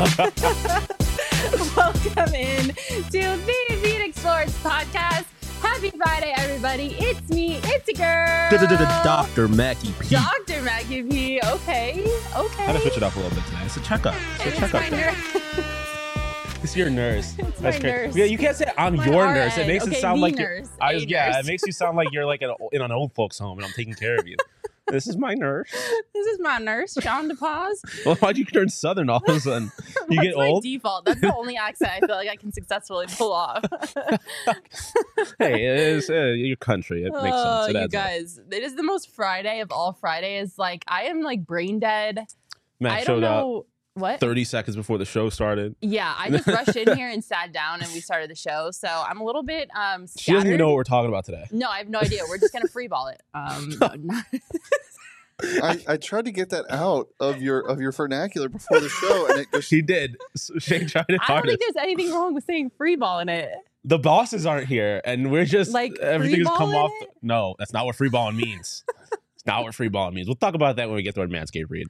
Welcome in to the Phoenix Sports Podcast. Happy Friday, everybody. It's me. It's a girl. Dr. Mackie P. Dr. Mackie P. Okay. I'm gonna switch it up a little bit today. It's a checkup. It's my nurse. It's your nurse. It's That's my great. nurse. Yeah, you can't say I'm My your RN. nurse. It makes Okay, it sound the like nurse. yeah, Nurse. it makes you sound like you're like in an old folks home and I'm taking care of you. This is my nurse. This is my nurse, Sean DePaz. Well, why'd you turn southern all of a sudden? You get That's my old? default. That's the only accent I feel like I can successfully pull off. Hey, it is your country. It makes sense. Oh, It you adds up. guys, it is the most Friday of all Fridays. Like, I am like brain dead. Matt I don't showed up know what. 30 seconds before the show started. Yeah, I just rushed in here and sat down and we started the show. So I'm a little bit scattered. She doesn't even know what we're talking about today. No, I have no idea. We're just gonna free ball it. I tried to get that out of your vernacular before the show, and it just She did. Shane tried it I don't hardest. think there's anything wrong with saying free ball in it. The bosses aren't here, and we're just Like, everything has come freeballing off. it? No, that's not what free balling means. It's not what free balling means. We'll talk about that when we get to our Manscaped read.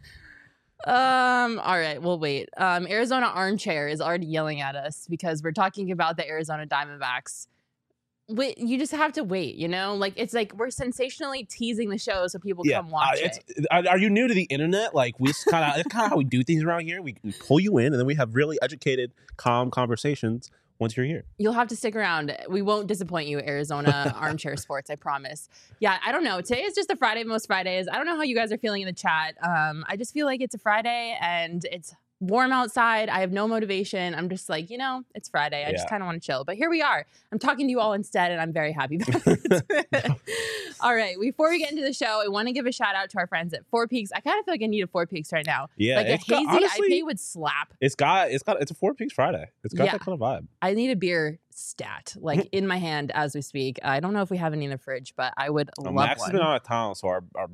All right, we'll wait. Arizona Armchair is already yelling at us because we're talking about the Arizona Diamondbacks. Wait, you just have to wait, you know? Like, it's like we're sensationally teasing the show so people come watch it. Are you new to the internet? Like it's kind of how we do things around here. We pull you in, and then we have really educated, calm conversations once you're here. You'll have to stick around. We won't disappoint you, Arizona Armchair Sports, I promise. Yeah, I don't know. Today is just a Friday of most Fridays. I don't know how you guys are feeling in the chat. I just feel like it's a Friday and it's warm outside. I have no motivation. I'm just like, it's Friday. I just kind of want to chill. But here we are. I'm talking to you all instead, and I'm very happy about it. All right. Before we get into the show, I want to give a shout out to our friends at Four Peaks. I kind of feel like I need a Four Peaks right now. Yeah, like a it's got- hazy honestly, IPA would slap. It's a 4 Peaks Friday. It's got that kind of vibe. I need a beer stat, like in my hand as we speak. I don't know if we have any in the fridge, but I would love Max one. has been out of town, so our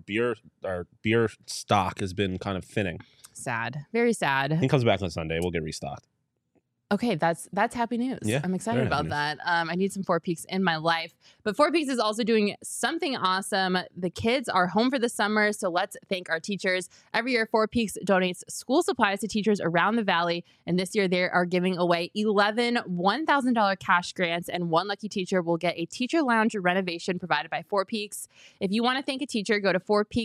beer stock has been kind of thinning. Sad. Very sad. He comes back on Sunday. We'll get restocked. Okay, that's happy news. Yeah, I'm excited very about happy that. I need some Four Peaks in my life. But Four Peaks is also doing something awesome. The kids are home for the summer, so let's thank our teachers. Every year, Four Peaks donates school supplies to teachers around the valley, and this year they are giving away 11 $1,000 cash grants, and one lucky teacher will get a teacher lounge renovation provided by Four Peaks. If you want to thank a teacher, go to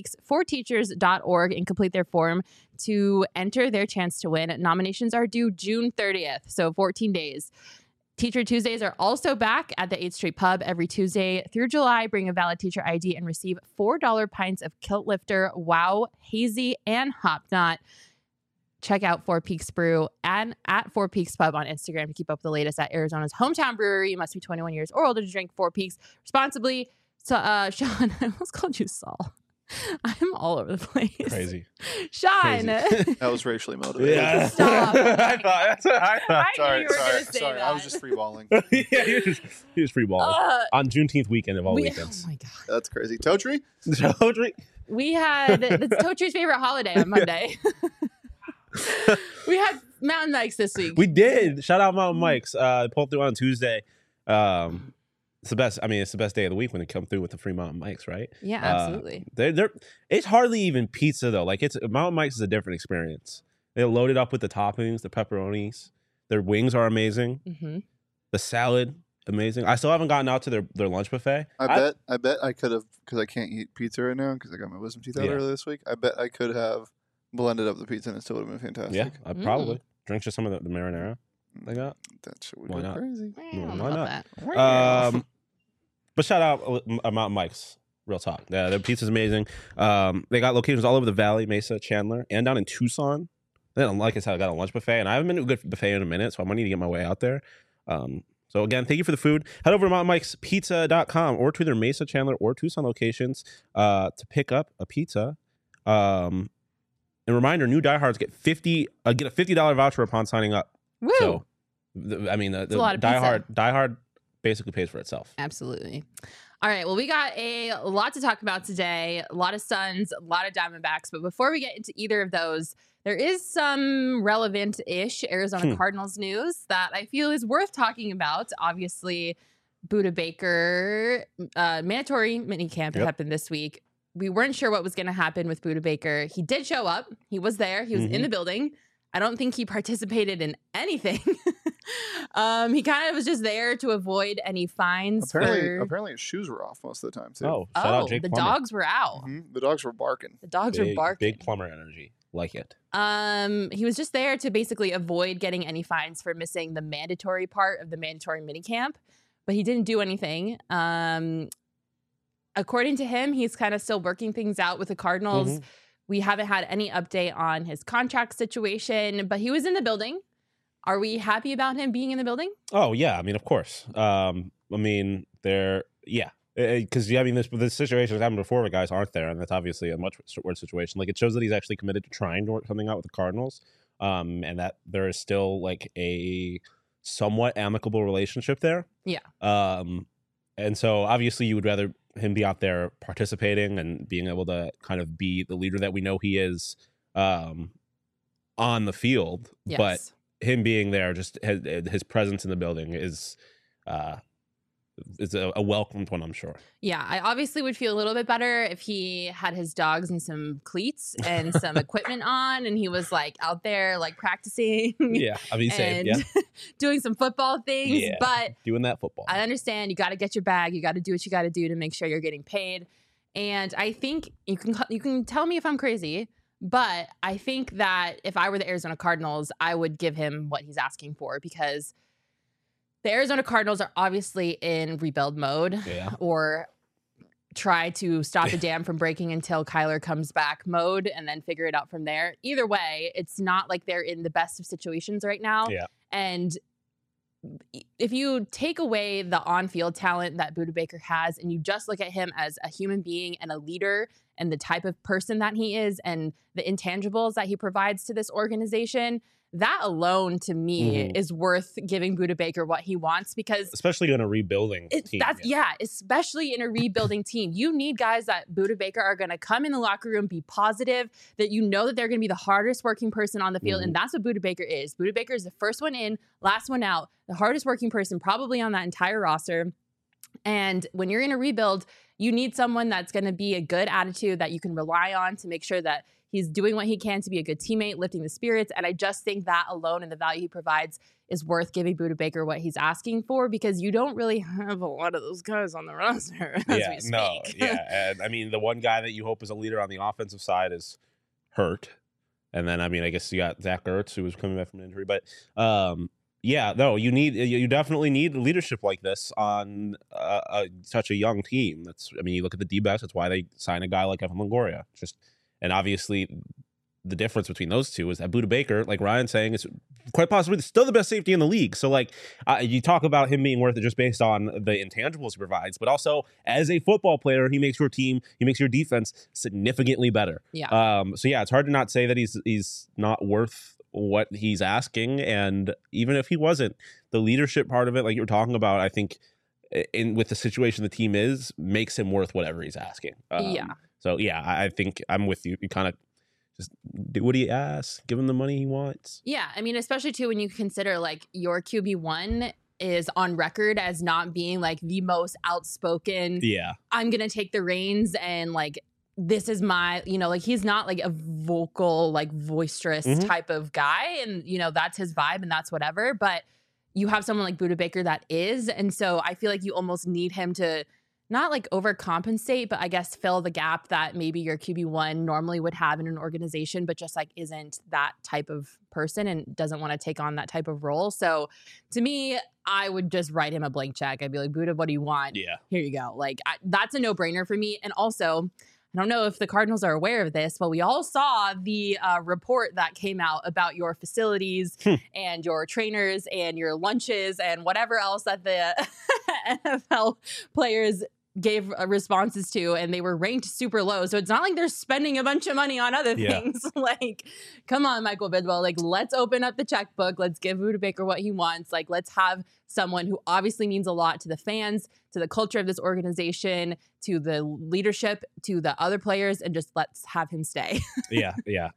fourpeaks4teachers.org and complete their form to enter their chance to win. Nominations are due June 30th, so 14 days. Teacher Tuesdays are also back at the 8th Street Pub every Tuesday through July. Bring a valid teacher ID and receive $4 pints of Kilt Lifter, Wow, Hazy, and Hop Knot. Check out Four Peaks Brew and at Four Peaks Pub on Instagram to keep up with the latest at Arizona's hometown brewery. You must be 21 years or older to drink Four Peaks responsibly. So, Sean, I almost called you Saul. I'm all over the place. Crazy. Sean. Crazy. that was racially motivated. Yeah. Stop. I thought. That's what I thought. I knew you were going to say sorry. that. I was just free balling. Yeah, he was free balling on Juneteenth weekend of all weekends. Oh my God. That's crazy. Toe tree? We had, it's Totri's favorite holiday on Monday. We had Mountain Bikes this week. We did. Shout out Mountain Mike's. Pulled through on Tuesday. It's the best. I mean, it's the best day of the week when they come through with the free Mountain Mike's, right? Yeah, absolutely. It's hardly even pizza though. Like Mountain Mike's is a different experience. They load it up with the toppings, the pepperonis. Their wings are amazing. Mm-hmm. The salad, amazing. I still haven't gotten out to their lunch buffet. I bet I could have, because I can't eat pizza right now because I got my wisdom teeth out earlier this week. I bet I could have blended up the pizza and it still would have been fantastic. Yeah, I probably drink just some of the marinara they got. That shit would Why go not? crazy. Why not? But shout out Mountain Mike's. Real talk. Yeah, their pizza's amazing. They got locations all over the valley, Mesa, Chandler, and down in Tucson. Then, like I said, I got a lunch buffet, and I haven't been to a good buffet in a minute, so I might need to get my way out there. So again, thank you for the food. Head over to mountainmikespizza.com or to their Mesa, Chandler, or Tucson locations to pick up a pizza. And reminder, new diehards get a $50 voucher upon signing up. Woo! So, the diehard basically pays for itself. Absolutely. All right. Well, we got a lot to talk about today. A lot of Suns, a lot of Diamondbacks. But before we get into either of those, there is some relevant-ish Arizona Cardinals news that I feel is worth talking about. Obviously, Budda Baker mandatory minicamp happened this week. We weren't sure what was going to happen with Budda Baker. He did show up. He was there. He was in the building. I don't think he participated in anything. He kind of was just there to avoid any fines. Apparently his shoes were off most of the time too. Oh, shout out Jake the Plummer. dogs were out. The dogs were barking. The dogs were barking. Big Plummer energy. Like it. He was just there to basically avoid getting any fines for missing the mandatory part of the mandatory minicamp, but he didn't do anything. According to him, he's kind of still working things out with the Cardinals. Mm-hmm. We haven't had any update on his contract situation, but he was in the building. Are we happy about him being in the building? Oh yeah, I mean, of course. Because this situation has happened before, but guys aren't there, and that's obviously a much worse situation. Like, it shows that he's actually committed to trying to work something out with the Cardinals, and that there is still like a somewhat amicable relationship there. Yeah. And so obviously you would rather him be out there participating and being able to kind of be the leader that we know he is on the field, Yes. but him being there, just his presence in the building is a welcomed one, I'm sure. Yeah, I obviously would feel a little bit better if he had his dogs and some cleats and some equipment on, and he was like out there like practicing. Yeah, I mean, same. And Yeah, doing some football things. Yeah. But doing that football. I understand you got to get your bag. You got to do what you got to do to make sure you're getting paid. And I think you can tell me if I'm crazy, but I think that if I were the Arizona Cardinals, I would give him what he's asking for, because the Arizona Cardinals are obviously in rebuild mode, or try to stop the dam from breaking until Kyler comes back mode, and then figure it out from there. Either way, it's not like they're in the best of situations right now. Yeah. And if you take away the on-field talent that Budda Baker has, and you just look at him as a human being and a leader and the type of person that he is and the intangibles that he provides to this organization, that alone to me is worth giving Budda Baker what he wants, because especially in a rebuilding team. Especially in a rebuilding team. You need guys that Budda Baker are going to come in the locker room, be positive, that you know that they're going to be the hardest working person on the field. And that's what Budda Baker is. Budda Baker is the first one in, last one out, the hardest working person probably on that entire roster. And when you're in a rebuild, you need someone that's going to be a good attitude that you can rely on to make sure that he's doing what he can to be a good teammate, lifting the spirits. And I just think that alone and the value he provides is worth giving Budda Baker what he's asking for, because you don't really have a lot of those guys on the roster as we speak. And I mean, the one guy that you hope is a leader on the offensive side is hurt. And then, I mean, I guess you got Zach Ertz, who was coming back from injury. But you definitely need leadership like this on such a young team. You look at the D-backs, that's why they sign a guy like Evan Longoria. And obviously, the difference between those two is that Budda Baker, like Ryan's saying, is quite possibly still the best safety in the league. So, you talk about him being worth it just based on the intangibles he provides, but also as a football player, he makes your defense significantly better. Yeah. It's hard to not say that he's not worth what he's asking. And even if he wasn't, the leadership part of it, like you were talking about, I think with the situation the team is, makes him worth whatever he's asking. I think I'm with you. You kind of just do what he asks, give him the money he wants. Yeah, I mean, especially too when you consider like your QB1 is on record as not being like the most outspoken. Yeah, I'm gonna take the reins and like this is my, he's not like a vocal, like boisterous type of guy, and that's his vibe and that's whatever. But you have someone like Budda Baker that is, and so I feel like you almost need him to not like overcompensate, but I guess fill the gap that maybe your QB1 normally would have in an organization, but just like isn't that type of person and doesn't want to take on that type of role. So to me, I would just write him a blank check. I'd be like, Budda, what do you want? Yeah. Here you go. Like that's a no-brainer for me. And also, I don't know if the Cardinals are aware of this, but we all saw the report that came out about your facilities and your trainers and your lunches and whatever else that the NFL players gave responses to, and they were ranked super low. So it's not like they're spending a bunch of money on other things. Like, come on, Michael Bidwell. Like, let's open up the checkbook. Let's give Budda Baker what he wants. Like, let's have someone who obviously means a lot to the fans, to the culture of this organization, to the leadership, to the other players, and just let's have him stay. Yeah.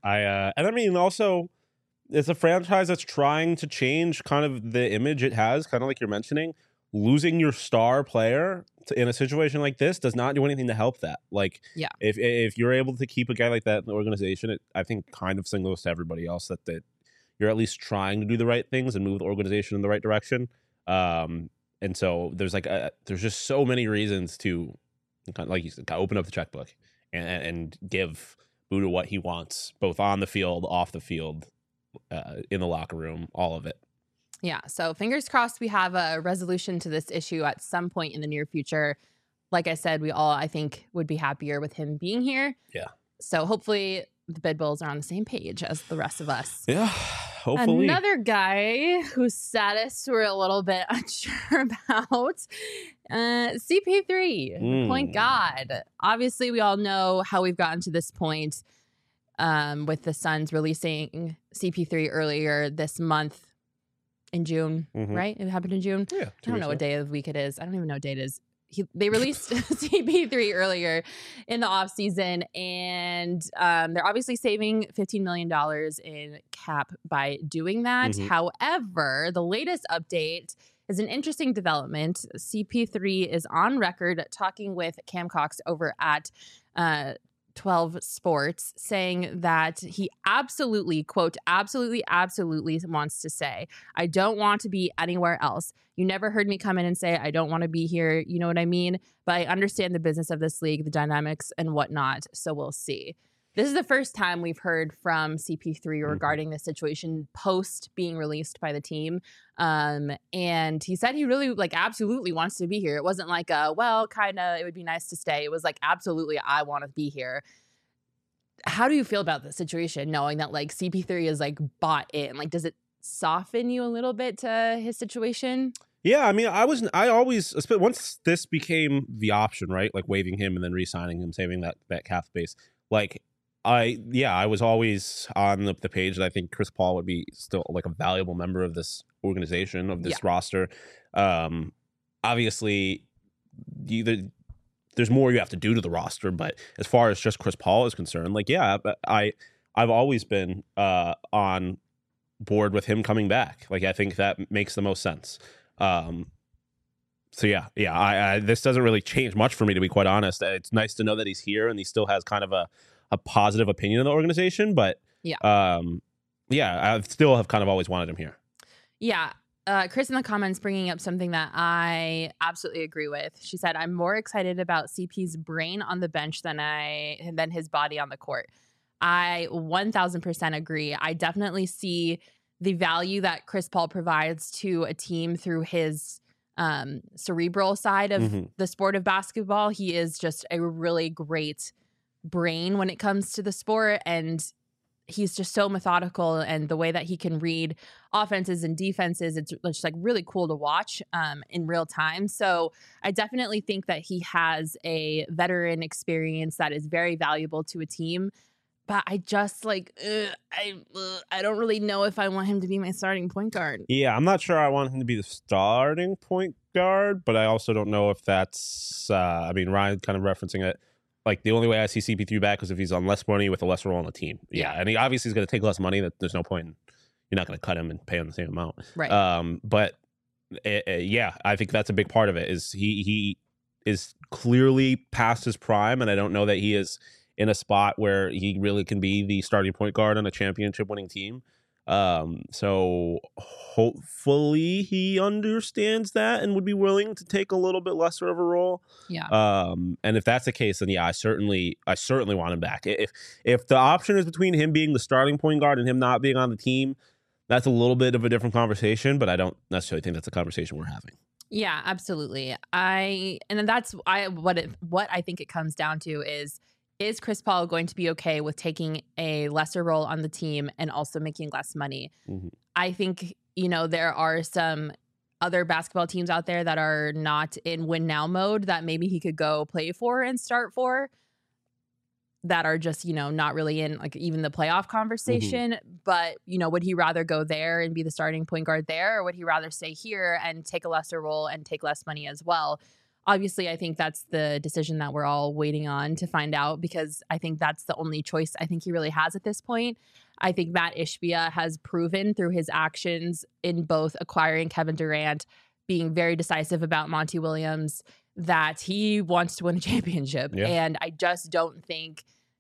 Also, it's a franchise that's trying to change kind of the image it has, kind of like you're mentioning. Losing your star player in a situation like this does not do anything to help that. Like, if you're able to keep a guy like that in the organization, I think kind of signals to everybody else that you're at least trying to do the right things and move the organization in the right direction. And so there's there's just so many reasons to kind of, like you said, kind of open up the checkbook and give Buddha what he wants, both on the field, off the field, in the locker room, all of it. Yeah. So fingers crossed we have a resolution to this issue at some point in the near future. Like I said, we all, I think, would be happier with him being here. Yeah. So hopefully the Bid Bulls are on the same page as the rest of us. Yeah, hopefully. Another guy whose status we're a little bit unsure about, CP3, the point guard. Obviously, we all know how we've gotten to this point with the Suns releasing CP3 earlier this month in June, right? It happened in June. Yeah, I don't know what day of the week it is. I don't even know what day it is. They released CP3 earlier in the offseason, and they're obviously saving $15 million in cap by doing that. However, the latest update is an interesting development. CP3 is on record talking with Cam Cox over at 12 Sports, saying that he absolutely, quote, absolutely wants to say, I don't want to be anywhere else. You never heard me come in and say, I don't want to be here. You know what I mean? But I understand the business of this league, the dynamics and whatnot. So we'll see. This is the first time we've heard from CP3 regarding this situation post being released by the team. And he said he really absolutely wants to be here. It wasn't like it would be nice to stay. It was like, absolutely, I want to be here. How do you feel about this situation, knowing that CP3 is bought in? Does it soften you a little bit to his situation? Yeah, I mean, I always, once this became the option, right? Waiving him and then re-signing him, saving that cap space. I was always on the page that I think Chris Paul would be still a valuable member of this organization, of this roster. Obviously, there's more you have to do to the roster, but as far as just Chris Paul is concerned, I've always been on board with him coming back. I think that makes the most sense. So this doesn't really change much for me, to be quite honest. It's nice to know that he's here and he still has kind of a positive opinion of the organization, but I still have kind of always wanted him here. Yeah. Chris in the comments bringing up something that I absolutely agree with. She said, I'm more excited about CP's brain on the bench than his body on the court. I 1000% agree. I definitely see the value that Chris Paul provides to a team through his cerebral side of the sport of basketball. He is just a really great brain when it comes to the sport, and he's just so methodical, and the way that he can read offenses and defenses, it's just really cool to watch in real time. So I definitely think that he has a veteran experience that is very valuable to a team. But I just I don't really know if I want him to be my starting point guard. Yeah, I'm not sure I want him to be the starting point guard, but I also don't know if that's Ryan kind of referencing it. The only way I see CP3 back is if he's on less money with a lesser role on the team. Yeah. And he obviously is going to take less money. There's no point you're not going to cut him and pay him the same amount. Right. But I think that's a big part of it. Is he is clearly past his prime, and I don't know that he is in a spot where he really can be the starting point guard on a championship winning team. So hopefully he understands that and would be willing to take a little bit lesser of a role. Yeah. And if that's the case, then I certainly want him back. If the option is between him being the starting point guard and him not being on the team, that's a little bit of a different conversation, but I don't necessarily think that's a conversation we're having. Yeah, absolutely. What I think it comes down to is Chris Paul going to be okay with taking a lesser role on the team and also making less money? I think, there are some other basketball teams out there that are not in win now mode that maybe he could go play for and start for, that are just, not really in even the playoff conversation. But, would he rather go there and be the starting point guard there, or would he rather stay here and take a lesser role and take less money as well? Obviously, I think that's the decision that we're all waiting on to find out, because I think that's the only choice I think he really has at this point. I think Matt Ishbia has proven through his actions in both acquiring Kevin Durant, being very decisive about Monty Williams, that he wants to win a championship. Yeah. And I just don't think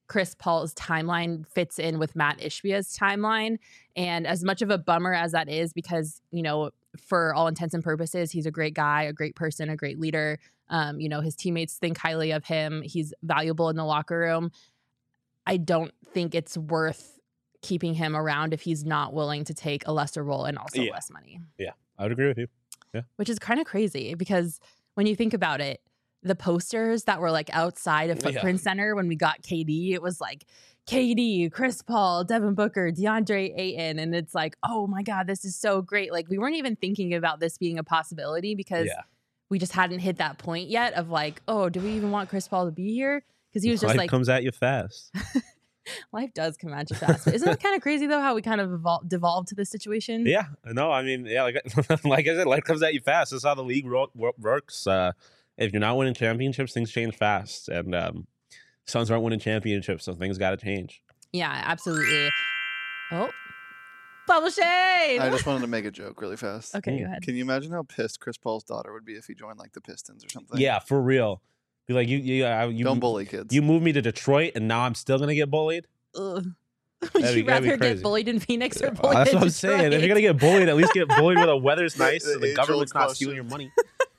Chris Paul's timeline fits in with Matt Ishbia's timeline. And as much of a bummer as that is, because, you know, for all intents and purposes, he's a great guy, a great person, a great leader. You know, his teammates think highly of him. He's valuable in the locker room. I don't think it's worth keeping him around if he's not willing to take a lesser role and also less money. Yeah, I would agree with you. Yeah. Which is kind of crazy because when you think about it, the posters that were like outside of Footprint Center when we got KD, it was like KD, Chris Paul, Devin Booker, DeAndre Ayton. And it's like, oh my God, this is so great. Like we weren't even thinking about this being a possibility because we just hadn't hit that point yet of like, oh, do we even want Chris Paul to be here? Because he was just Life comes at you fast. Life does come at you fast. But isn't it kind of crazy though how we kind of devolved to this situation? Yeah, no, I mean, yeah, like I said, life comes at you fast. That's how the league works. If you're not winning championships, things change fast, and Suns aren't winning championships, so things got to change. Yeah, absolutely. Oh, bubble shade. I just wanted to make a joke really fast. Okay, go ahead. Can you imagine how pissed Chris Paul's daughter would be if he joined like the Pistons or something? Yeah, for real. Be like, you don't bully kids. You moved me to Detroit, and now I'm still gonna get bullied. Ugh. Would you rather get bullied in Phoenix or bullied That's in what I'm Detroit? saying. If you're gonna get bullied, at least get bullied where the weather's nice and the government's not stealing your money.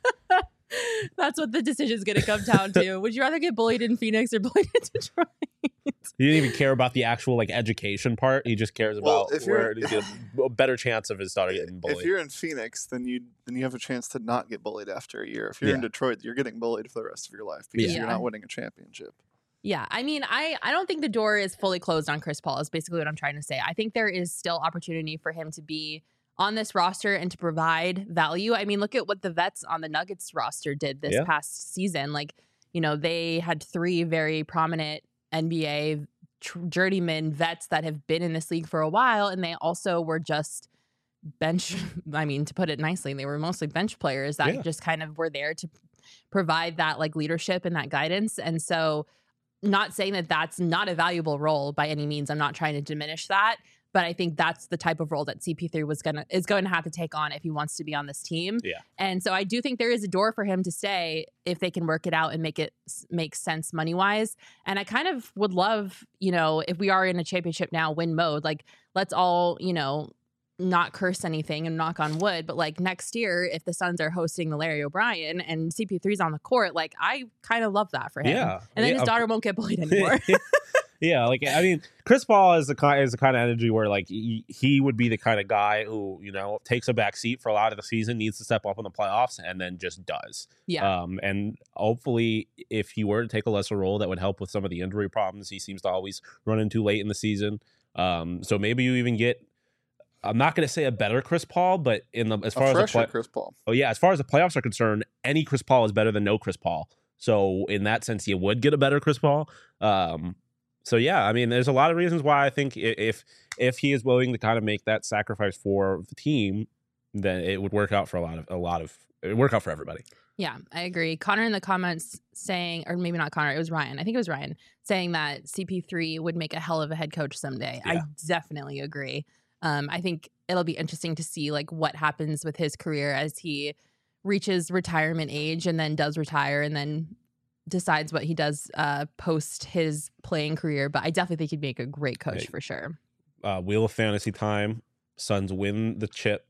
That's what the decision's going to come down to. Would you rather get bullied in Phoenix or bullied in Detroit? He didn't even care about the actual like education part. He just cares about where to get a better chance of his daughter getting bullied. If you're in Phoenix, then you have a chance to not get bullied after a year. If you're in Detroit, you're getting bullied for the rest of your life because you're not winning a championship. Yeah, I mean, I don't think the door is fully closed on Chris Paul is basically what I'm trying to say. I think there is still opportunity for him to be on this roster and to provide value. I mean, look at what the vets on the Nuggets roster did this past season. Like, you know, they had 3 very prominent NBA journeyman vets that have been in this league for a while, and they also were just bench. I mean, to put it nicely, they were mostly bench players that just kind of were there to provide that like leadership and that guidance. And so, not saying that that's not a valuable role by any means. I'm not trying to diminish that. But I think that's the type of role that CP3 is going to have to take on if he wants to be on this team. Yeah. And so I do think there is a door for him to stay if they can work it out and make sense money-wise. And I kind of would love, you know, if we are in a championship now win mode, like let's all, you know, not curse anything and knock on wood. But like next year, if the Suns are hosting the Larry O'Brien and CP3's on the court, like I kind of love that for him. Yeah. And then his daughter won't get bullied anymore. Yeah, like I mean, Chris Paul is the kind of energy where like he would be the kind of guy who, you know, takes a back seat for a lot of the season, needs to step up in the playoffs, and then just does. Yeah. And hopefully, if he were to take a lesser role, that would help with some of the injury problems he seems to always run into late in the season. So maybe you even get. I'm not going to say a better Chris Paul, but as far as Chris Paul. Oh yeah, as far as the playoffs are concerned, any Chris Paul is better than no Chris Paul. So in that sense, you would get a better Chris Paul. So yeah, I mean, there's a lot of reasons why I think if he is willing to kind of make that sacrifice for the team, then it would work out for it would work out for everybody. Yeah, I agree. Connor in the comments saying, or maybe not Connor, it was Ryan. I think it was Ryan saying that CP3 would make a hell of a head coach someday. Yeah. I definitely agree. I think it'll be interesting to see like what happens with his career as he reaches retirement age and then does retire and then decides what he does post his playing career. But I definitely think he'd make a great coach for sure. Wheel of Fantasy time. Suns win the chip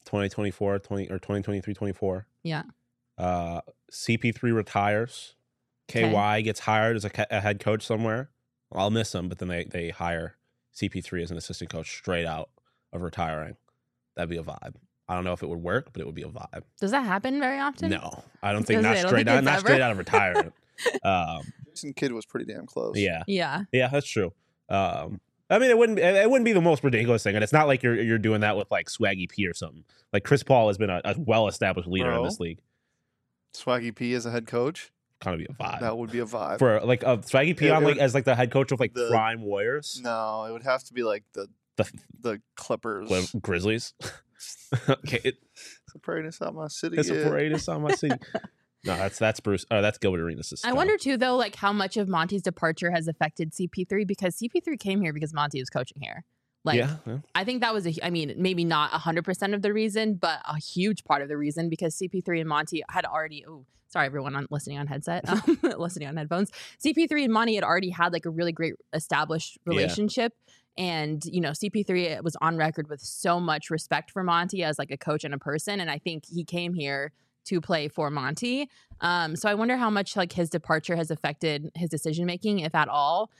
2023-24. Yeah. CP3 retires. KY gets hired as a head coach somewhere. I'll miss him, but then they hire CP3 as an assistant coach straight out of retiring. That'd be a vibe. I don't know if it would work, but it would be a vibe. Does that happen very often? No, I don't think not straight out of retirement. Jason Kidd was pretty damn close. Yeah, that's true. I mean, it wouldn't be the most ridiculous thing, and it's not like you're doing that with like Swaggy P or something. Like Chris Paul has been a well-established leader in this league. Swaggy P as a head coach, kind of be a vibe. That would be a vibe for like a Swaggy P on like as like the head coach of like the Prime Warriors. No, it would have to be like the Clippers, Grizzlies. Okay, it's a parade inside my city. It's a parade inside my city. No, that's Bruce. That's Gilbert Arenas. I wonder too, though, like how much of Monty's departure has affected CP3 because CP3 came here because Monty was coaching here. Like, yeah. I think that was maybe not 100% of the reason, but a huge part of the reason, because CP3 and Monty had already, sorry, everyone listening on headset, listening on headphones. CP3 and Monty had already had like a really great established relationship. And, CP3 was on record with so much respect for Monty as like a coach and a person. And I think he came here to play for Monty. So I wonder how much like his departure has affected his decision-making, if at all.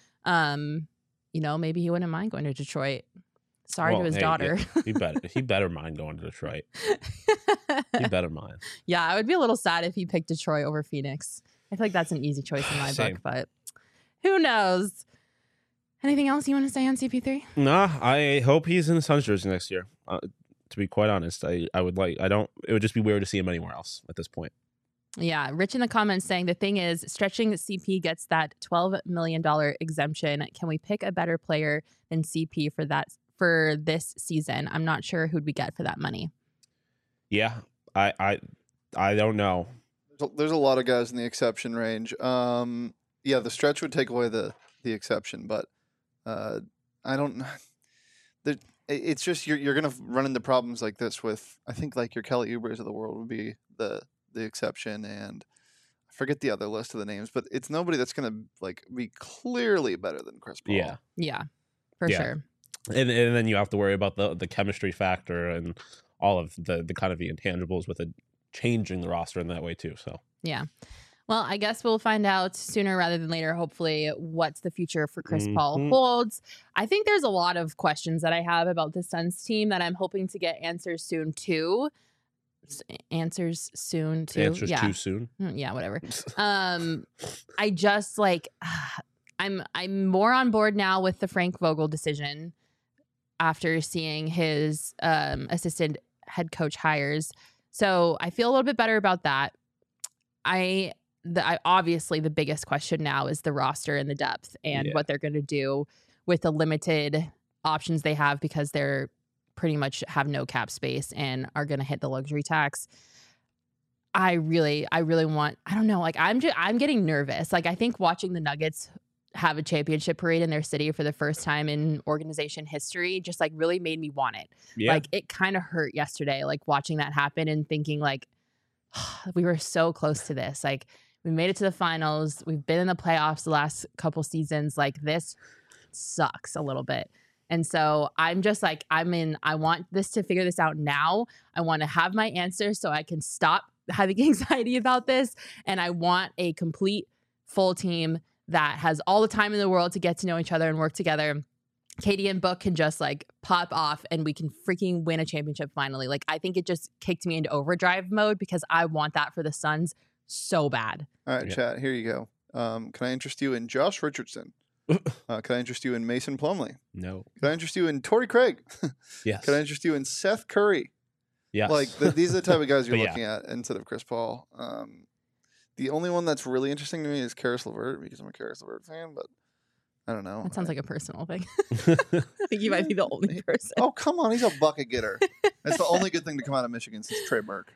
Maybe he wouldn't mind going to Detroit. Sorry to his daughter. Yeah, he better mind going to Detroit. He better mind. Yeah, I would be a little sad if he picked Detroit over Phoenix. I feel like that's an easy choice in my book, but who knows? Anything else you want to say on CP3? Nah, I hope he's in the Suns jersey next year. To be quite honest, it would just be weird to see him anywhere else at this point. Yeah, Rich in the comments saying the thing is stretching CP gets that $12 million exemption. Can we pick a better player than CP for this season? I'm not sure who'd we get for that money. Yeah, I don't know. There's a lot of guys in the exception range. The stretch would take away the exception, but I don't. It's just you're gonna run into problems like this with, I think, like your Kelly Oubres of the world would be the exception, and I forget the other list of the names, but it's nobody that's gonna like be clearly better than Chris Paul. Yeah, for sure. And then you have to worry about the chemistry factor and all of the kind of the intangibles with it changing the roster in that way too. So yeah. Well, I guess we'll find out sooner rather than later, hopefully, what's the future for Chris Paul holds. I think there's a lot of questions that I have about the Suns team that I'm hoping to get answers soon too. Answers too soon. Yeah, whatever. I just I'm more on board now with the Frank Vogel decision after seeing his assistant head coach hires. So I feel a little bit better about that. Obviously the biggest question now is the roster and the depth and what they're going to do with the limited options they have, because they're pretty much have no cap space and are going to hit the luxury tax. I really want, I don't know, like I'm getting nervous. Like I think watching the Nuggets have a championship parade in their city for the first time in organization history just like really made me want it. Yeah. Like it kind of hurt yesterday, like watching that happen and thinking like, we were so close to this. Like we made it to the finals. We've been in the playoffs the last couple seasons. Like this sucks a little bit. And so I'm just like, I want this to figure this out now. I want to have my answer so I can stop having anxiety about this. And I want a complete full team that has all the time in the world to get to know each other and work together. Katie and Book can just like pop off and we can freaking win a championship finally. Like I think it just kicked me into overdrive mode because I want that for the Suns so bad. All right, chat, here you go. Can I interest you in Josh Richardson? Can I interest you in Mason Plumlee? No. Can I interest you in Torrey Craig? Yes. Can I interest you in Seth Curry? Yes. Like these are the type of guys you're looking at instead of Chris Paul. The only one that's really interesting to me is Karis LeVert, because I'm a Karis LeVert fan, but I don't know. That sounds like a personal thing. I think you might be the only person. Oh, come on. He's a bucket getter. That's the only good thing to come out of Michigan since Trey Burke.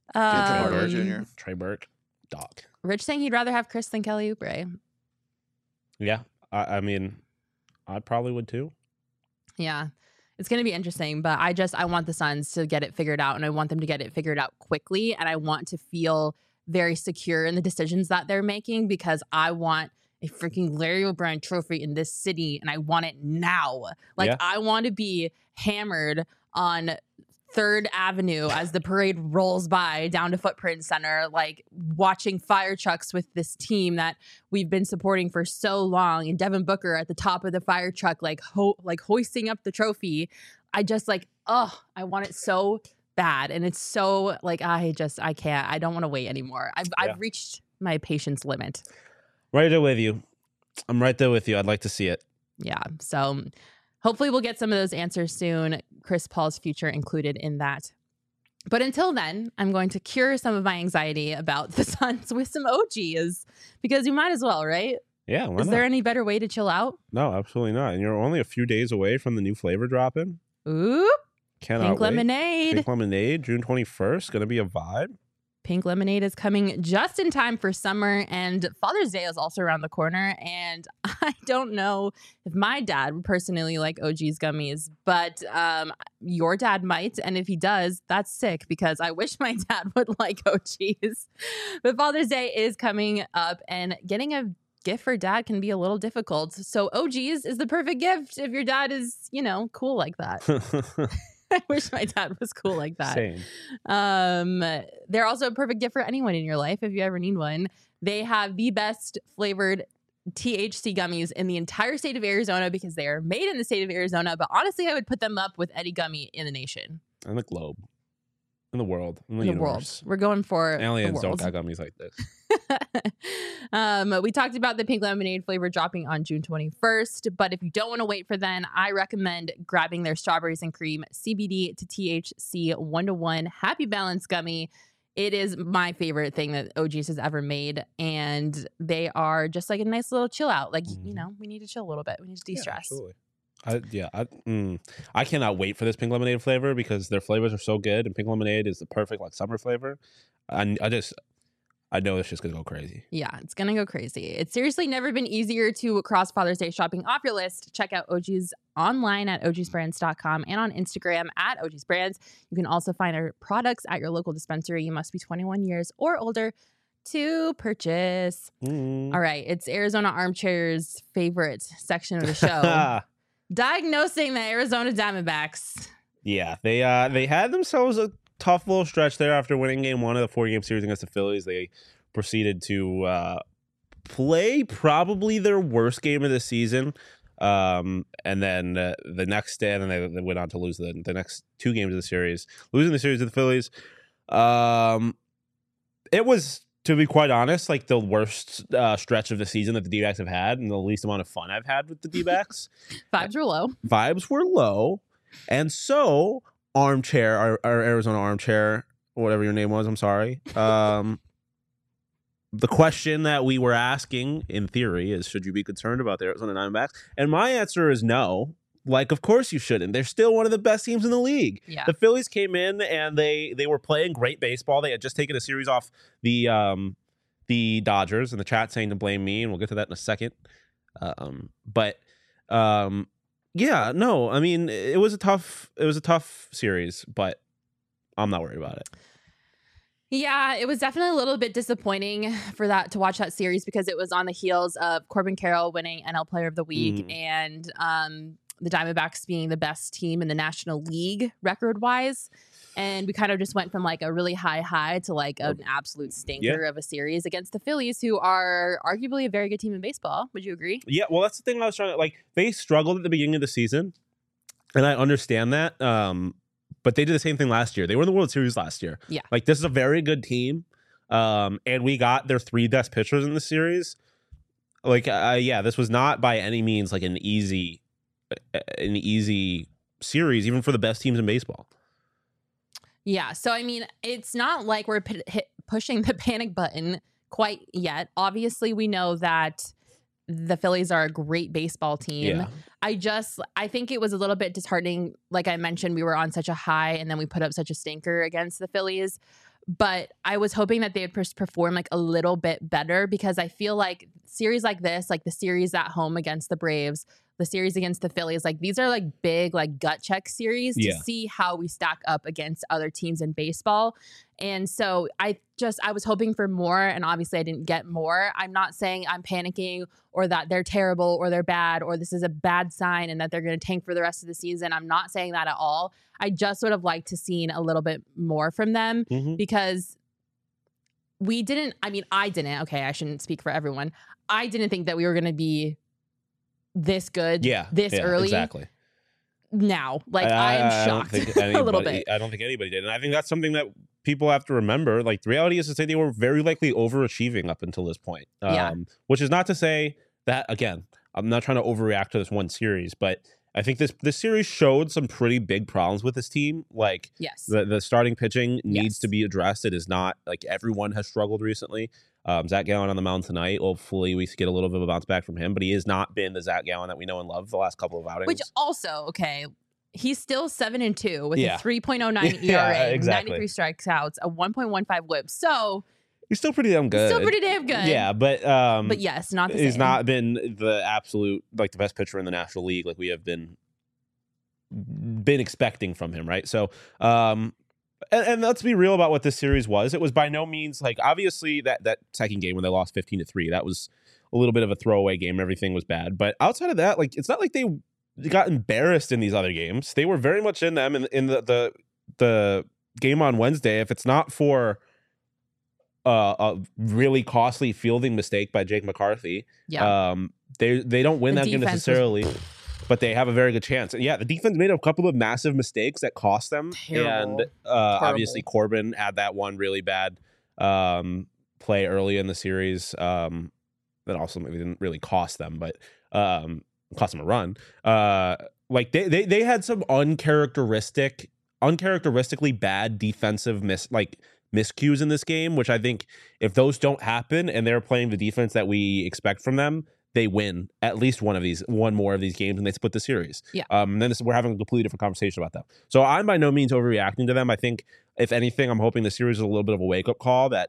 Trey Burke. Dog. Rich saying he'd rather have Chris than Kelly Oubre. Yeah. I mean, I probably would too. Yeah. It's going to be interesting, but I want the Suns to get it figured out, and I want them to get it figured out quickly, and I want to feel very secure in the decisions that they're making, because I want a freaking Larry O'Brien trophy in this city, and I want it now. Like, I want to be hammered on 3rd Avenue as the parade rolls by down to Footprint Center, like watching fire trucks with this team that we've been supporting for so long, and Devin Booker at the top of the fire truck, like hoisting up the trophy. I just I want it so bad, and it's so like I can't. I don't want to wait anymore. I've reached my patience limit. Right there with you. I'm right there with you. I'd like to see it. Yeah. So hopefully we'll get some of those answers soon. Chris Paul's future included in that. But until then, I'm going to cure some of my anxiety about the Suns with some OGs, because you might as well, right? Yeah. Why Is there any better way to chill out? No, absolutely not. And you're only a few days away from the new flavor dropping. Ooh. Cannot Pink wait. lemonade. Pink lemonade, June 21st. Going to be a vibe. Pink lemonade is coming just in time for summer, and Father's Day is also around the corner. And I don't know if my dad would personally like OG's gummies, but your dad might. And if he does, that's sick because I wish my dad would like OG's. But Father's Day is coming up, and getting a gift for dad can be a little difficult. So OG's is the perfect gift if your dad is, cool like that. I wish my dad was cool like that. Same. They're also a perfect gift for anyone in your life if you ever need one. They have the best flavored THC gummies in the entire state of Arizona because they are made in the state of Arizona. But honestly, I would put them up with Eddie Gummy in the nation. And the globe. In the world. In the world. universe. We're going for Aliens the world. don't got gummies like this. We talked about the pink lemonade flavor dropping on June 21st, but if you don't want to wait for then, I recommend grabbing their strawberries and cream CBD to THC 1-to-1 Happy Balance gummy. It is my favorite thing that OG's has ever made, and they are just like a nice little chill out. Like, we need to chill a little bit. We need to de-stress. Yeah, absolutely. I cannot wait for this pink lemonade flavor because their flavors are so good, and pink lemonade is the perfect summer flavor. I know it's just gonna go crazy. Yeah, it's gonna go crazy. It's seriously never been easier to cross Father's Day shopping off your list. Check out OG's online at ogsbrands.com and on Instagram at ogsbrands. You can also find our products at your local dispensary. You must be 21 years or older to purchase. All right, it's Arizona Armchair's favorite section of the show. Diagnosing the Arizona Diamondbacks. Yeah, they had themselves a tough little stretch there after winning game 1 of the 4-game series against the Phillies. They proceeded to play probably their worst game of the season. And then the next day, and then they went on to lose the next 2 games of the series, losing the series to the Phillies. It was, to be quite honest, like the worst stretch of the season that the D-backs have had and the least amount of fun I've had with the D-backs. Vibes were low. And so Armchair, our Arizona Armchair, whatever your name was, I'm sorry. The question that we were asking, in theory, is should you be concerned about the Arizona Diamondbacks? And my answer is no. Of course you shouldn't. They're still one of the best teams in the league. Yeah. The Phillies came in and they were playing great baseball. They had just taken a series off the Dodgers, and the chat saying to blame me, and we'll get to that in a second. Yeah, no, I mean, it was a tough series, but I'm not worried about it. Yeah, it was definitely a little bit disappointing to watch that series because it was on the heels of Corbin Carroll winning NL Player of the Week and the Diamondbacks being the best team in the National League record-wise. And we kind of just went from a really high to an absolute stinker of a series against the Phillies, who are arguably a very good team in baseball. Would you agree? Yeah, well, that's the thing I was trying to they struggled at the beginning of the season, and I understand that. But they did the same thing last year. They were in the World Series last year. Yeah. This is a very good team. And we got their 3 best pitchers in the series. This was not by any means an easy series, even for the best teams in baseball. Yeah. So, I mean, it's not like we're pushing the panic button quite yet. Obviously, we know that the Phillies are a great baseball team. Yeah. I think it was a little bit disheartening. Like I mentioned, we were on such a high and then we put up such a stinker against the Phillies. But I was hoping that they would perform a little bit better because I feel like series like this, the series at home against the Braves, the series against the Phillies, these are big gut check series to see how we stack up against other teams in baseball. And so I was hoping for more, and obviously I didn't get more. I'm not saying I'm panicking or that they're terrible or they're bad or this is a bad sign and that they're going to tank for the rest of the season. I'm not saying that at all. I just would have liked to seen a little bit more from them because I didn't, okay, I shouldn't speak for everyone. I didn't think that we were going to be this good this early. Exactly. Now, I am shocked a little bit. I don't think anybody did. And I think that's something that people have to remember. The reality is to say they were very likely overachieving up until this point. Which is not to say that, again, I'm not trying to overreact to this one series, but I think this series showed some pretty big problems with this team. The starting pitching needs to be addressed. It is not everyone has struggled recently. Zach Gallen on the mound tonight. Hopefully we get a little bit of a bounce back from him, but he has not been the Zach Gallen that we know and love the last couple of outings. Which also, okay, He's still 7-2 with Yeah. a 3.09 Yeah, ERA, exactly. 93 strikeouts, a 1.15 WHIP. So He's still pretty damn good. still pretty damn good. Yeah, but yes, not the he's same. not been the absolute like the best pitcher in the National League like we have been expecting from him, right? So and let's be real about what this series was. It was by no means like obviously that second game when they lost 15-3, that was a little bit of a throwaway game. Everything was bad. But outside of that, like it's not like they got embarrassed in these other games. They were very much in them in the game on Wednesday. If it's not for a really costly fielding mistake by Jake McCarthy, they don't win The that game defense necessarily, but they have a very good chance. And yeah, the defense made a couple of massive mistakes that cost them. Terrible. And obviously Corbin had that one really bad play early in the series that also maybe didn't really cost them, but cost them a run. Like they had some uncharacteristically bad defensive miscues in this game, which I think if those don't happen and they're playing the defense that we expect from them, they win at least one more of these games and they split the series. Yeah. And then we're having a completely different conversation about that. So I'm by no means overreacting to them. I think if anything, I'm hoping the series is a little bit of a wake up call that,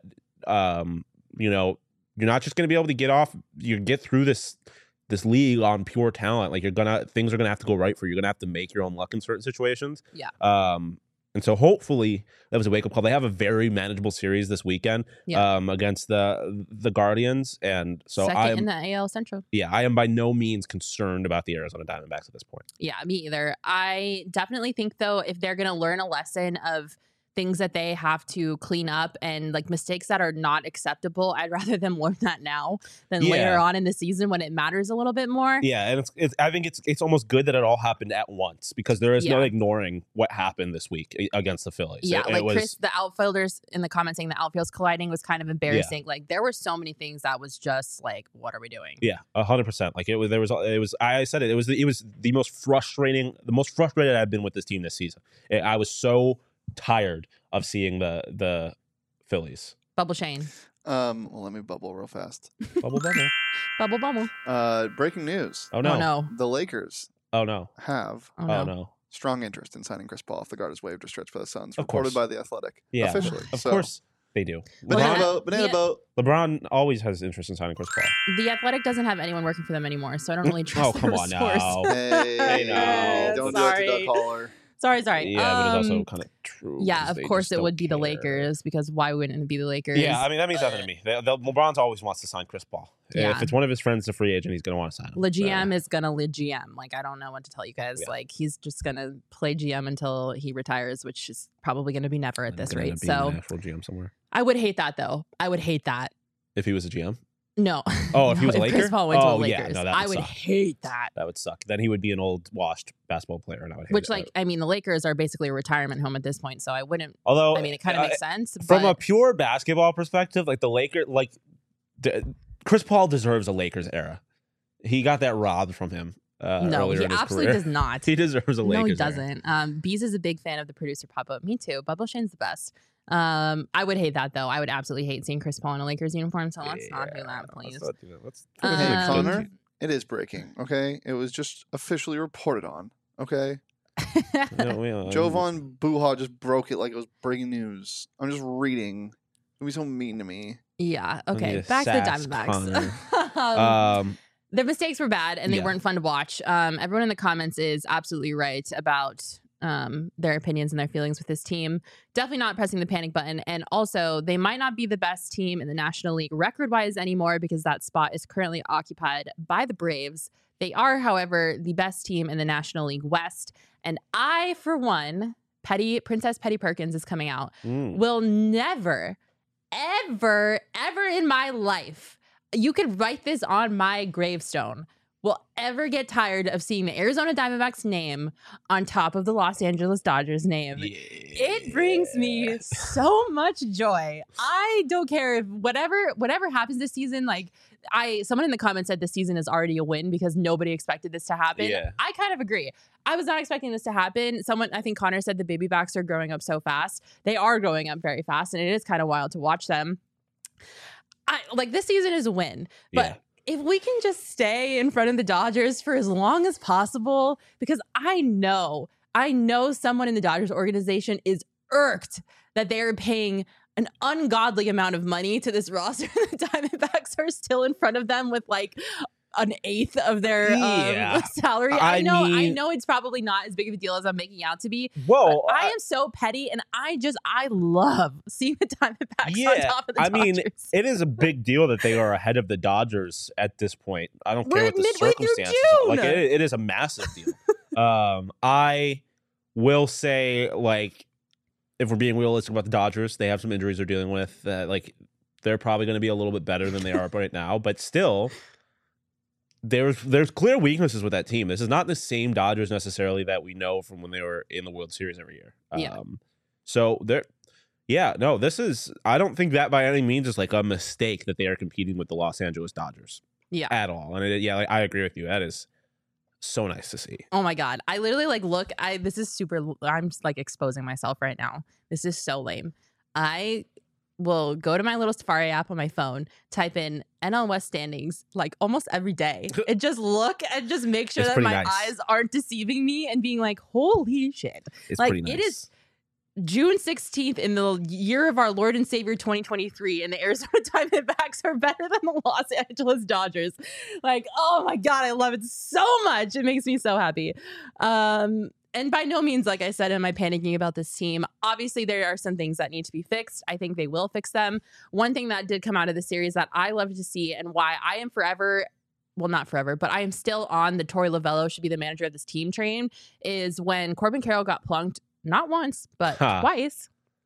you're not just going to be able to get through this league on pure talent. Like things are going to have to go right for you. You're going to have to make your own luck in certain situations. Yeah. And so hopefully that was a wake up call. They have a very manageable series this weekend against the Guardians. And so second in the AL Central. Yeah, I am by no means concerned about the Arizona Diamondbacks at this point. Yeah, me either. I definitely think though, if they're going to learn a lesson of things that they have to clean up and like mistakes that are not acceptable, I'd rather them learn that now than later on in the season when it matters a little bit more. Yeah, and I think it's almost good that it all happened at once because there is no ignoring what happened this week against the Phillies. Yeah, Chris, the outfielders in the comments saying the outfield's colliding was kind of embarrassing. Like there were so many things that was just like, what are we doing? Yeah, 100%. Like it was. I said it was the most frustrated I've been with this team this season. I was so tired of seeing the Phillies. Bubble Shane. Well, let me bubble real fast. Bubble. Breaking news. Oh no. Oh no. The Lakers Oh no. have Oh Oh no. no. strong interest in signing Chris Paul if the guard is waived or stretched by the Suns. Of Reported course. by The Athletic. Yeah. Officially. Of So, course they do. Banana Well, boat. LeBron always has interest in signing Chris Paul. The Athletic doesn't have anyone working for them anymore, so I don't really trust Oh, come their on source. now. Hey, no. don't Sorry. do it to Doug Holler. Sorry. Yeah, but it's also kind of true. Yeah, 'cause of they course just it don't would be the care. Lakers because why wouldn't it be the Lakers? Yeah, I mean that means nothing to me. LeBron's always wants to sign Chris Paul. Yeah. If it's one of his friends, a free agent, he's going to want to sign him. Le GM is gonna Le GM. Like I don't know what to tell you guys. Yeah. Like he's just gonna play GM until he retires, which is probably gonna be never at this Gonna rate. end up being So an actual GM somewhere. I would hate that though. I would hate that. If he was a GM. No. Oh, if he was a No, Laker? Chris Paul went to the Oh, yeah. Lakers. No, that I would would suck. hate that. That would suck. Then he would be an old, washed basketball player, and I would hate Which, it. like, I mean, the Lakers are basically a retirement home at this point, so I wouldn't. Although, I mean, it kind of makes sense. from a But pure basketball perspective, like the Lakers, Chris Paul deserves a Lakers era. He got that robbed from him. no, earlier he in his absolutely career. does not. He deserves a Lakers. No, he era. doesn't. Bees is a big fan of the producer Papa. Me too. Bubble Shane's the best. I would hate that though. I would absolutely hate seeing Chris Paul in a Lakers uniform. So let's not do that, please. Let's not do that. Let's Hey, Um, Connor, it is breaking, okay? It was just officially reported on, okay? Jovan Buha just broke it like it was breaking news. I'm just reading. Don't be so mean to me. Yeah. need Okay. to Back to the sass Diamondbacks. The mistakes were bad and they Yeah. weren't fun to watch. Everyone in the comments is absolutely right about their opinions and their feelings with this team. Definitely not pressing the panic button. And also, they might not be the best team in the National League record-wise anymore because that spot is currently occupied by the Braves. They are, however, the best team in the National League West. And I, for one, Princess Petty Perkins is coming out, will never, ever, ever in my life, you could write this on my gravestone, will ever get tired of seeing the Arizona Diamondbacks name on top of the Los Angeles Dodgers name. It brings me so much joy. I don't care if whatever happens this season, like someone in the comments said this season is already a win because nobody expected this to happen. Yeah. I kind of agree. I was not expecting this to happen. I think Connor said the baby backs are growing up so fast. They are growing up very fast, and it is kind of wild to watch them. This season is a win, but if we can just stay in front of the Dodgers for as long as possible, because I know I know someone in the Dodgers organization is irked that they are paying an ungodly amount of money to this roster. The Diamondbacks are still in front of them with like an eighth of their salary. I know it's probably not as big of a deal as I'm making out to be. Whoa, I am so petty, and I love seeing the Diamondbacks on top of the Dodgers. I mean, it is a big deal that they are ahead of the Dodgers at this point. I don't care what the circumstances are. Like it is a massive deal. I will say, like, if we're being realistic about the Dodgers, they have some injuries they're dealing with. Like, they're probably going to be a little bit better than they are right now, but still. There's clear weaknesses with that team. This is not the same Dodgers necessarily that we know from when they were in the World Series every year. So this is, I don't think that by any means is like a mistake that they are competing with the Los Angeles Dodgers. Yeah. At all. And I agree with you. That is so nice to see. Oh my God. I literally this is I'm just like exposing myself right now. This is so lame. I will go to my little Safari app on my phone, type in NL West standings like almost every day, and just look and just make sure that my eyes aren't deceiving me and being like, holy shit. It's like pretty nice. It is June 16th in the year of our Lord and Savior 2023, and the Arizona Diamondbacks are better than the Los Angeles Dodgers. Like, oh my God, I love it so much. It makes me so happy. And by no means, like I said, am I panicking about this team. Obviously, there are some things that need to be fixed. I think they will fix them. One thing that did come out of the series that I love to see, and why I am not forever, but I am still on the Torey Lovullo should be the manager of this team train, is when Corbin Carroll got plunked, not once, but twice.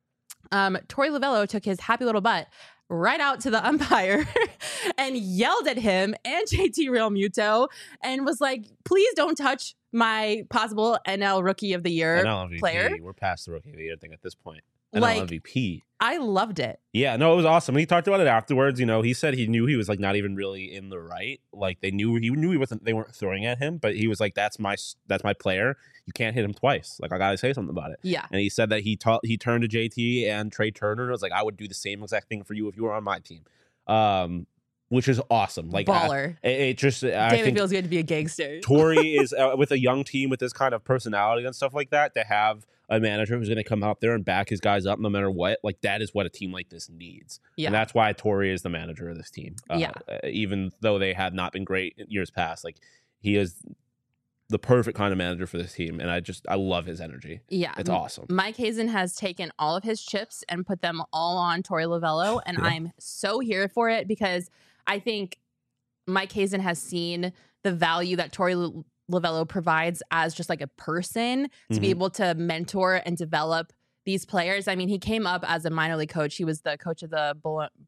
Torey Lovullo took his happy little butt right out to the umpire and yelled at him and JT Realmuto and was like, please don't touch my possible NL Rookie of the Year player. We're past the Rookie of the Year thing at this point. Like, NL MVP. I loved it. Yeah, no, it was awesome. He talked about it afterwards. You know, he said he knew he was like not even really in the right. Like he knew he wasn't. They weren't throwing at him, but he was like, "That's my player. You can't hit him twice. Like I gotta say something about it." Yeah. And he said that he turned to JT and Trey Turner and was like, "I would do the same exact thing for you if you were on my team." Which is awesome. Like baller. I think feels good to be a gangster. Torey is with a young team with this kind of personality and stuff like that. To have a manager who's going to come out there and back his guys up no matter what, like that is what a team like this needs. Yeah. And that's why Torey is the manager of this team. Even though they have not been great in years past, like he is the perfect kind of manager for this team. And I love his energy. Yeah. It's awesome. Mike Hazen has taken all of his chips and put them all on Torey Lovullo. And I'm so here for it because I think Mike Hazen has seen the value that Torey Lovullo provides as just like a person to be able to mentor and develop these players. I mean, he came up as a minor league coach. He was the coach of the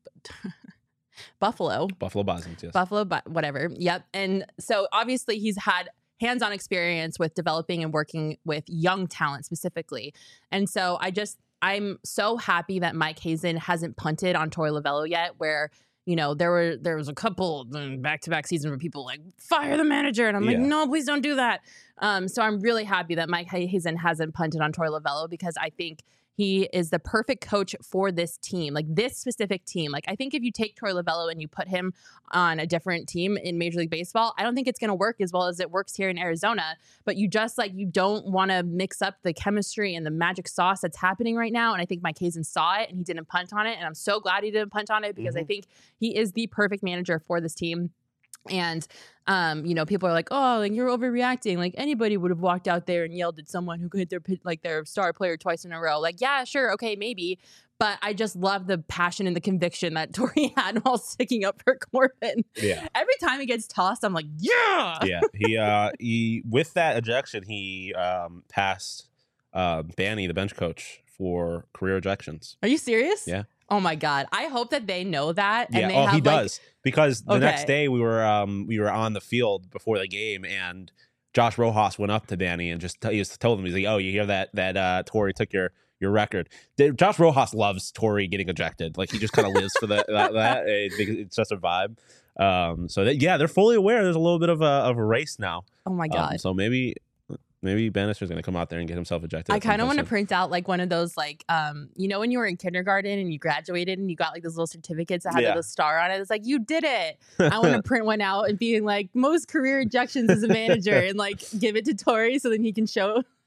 Buffalo Bisons, yes. Whatever. Yep. And so obviously he's had hands-on experience with developing and working with young talent specifically. And so I'm so happy that Mike Hazen hasn't punted on Torey Lovullo yet, where you know, there was a couple back-to-back seasons where people like fire the manager, and I'm like, no, please don't do that. So I'm really happy that Mike Hazen hasn't punted on Torey Lovullo because I think he is the perfect coach for this team, like this specific team. Like I think if you take Torey Lovullo and you put him on a different team in Major League Baseball, I don't think it's going to work as well as it works here in Arizona. But you don't want to mix up the chemistry and the magic sauce that's happening right now. And I think Mike Hazen saw it and he didn't punt on it. And I'm so glad he didn't punt on it because I think he is the perfect manager for this team. And, you know, people are like, oh, like you're overreacting. Like anybody would have walked out there and yelled at someone who could hit their star player twice in a row. Like, yeah, sure. Okay, maybe. But I just love the passion and the conviction that Torey had while sticking up for Corbin. Yeah. Every time he gets tossed, I'm like, yeah. Yeah. He with that ejection, he passed Banny, the bench coach, for career ejections. Are you serious? Yeah. Oh my God! I hope that they know that. And yeah. He does because the next day we were on the field before the game and Josh Rojas went up to Banny and he just told him, he's like, "Oh, you hear that Torey took your record." Josh Rojas loves Torey getting ejected. Like he just kind of lives for that. It's just a vibe. They're fully aware. There's a little bit of a race now. Oh my God! So maybe Bannister's going to come out there and get himself ejected. I kind of want to print out like one of those like, you know, when you were in kindergarten and you graduated and you got like those little certificates that had a little star on it. It's like, you did it. I want to print one out and being like most career ejections as a manager and like give it to Torey so then he can show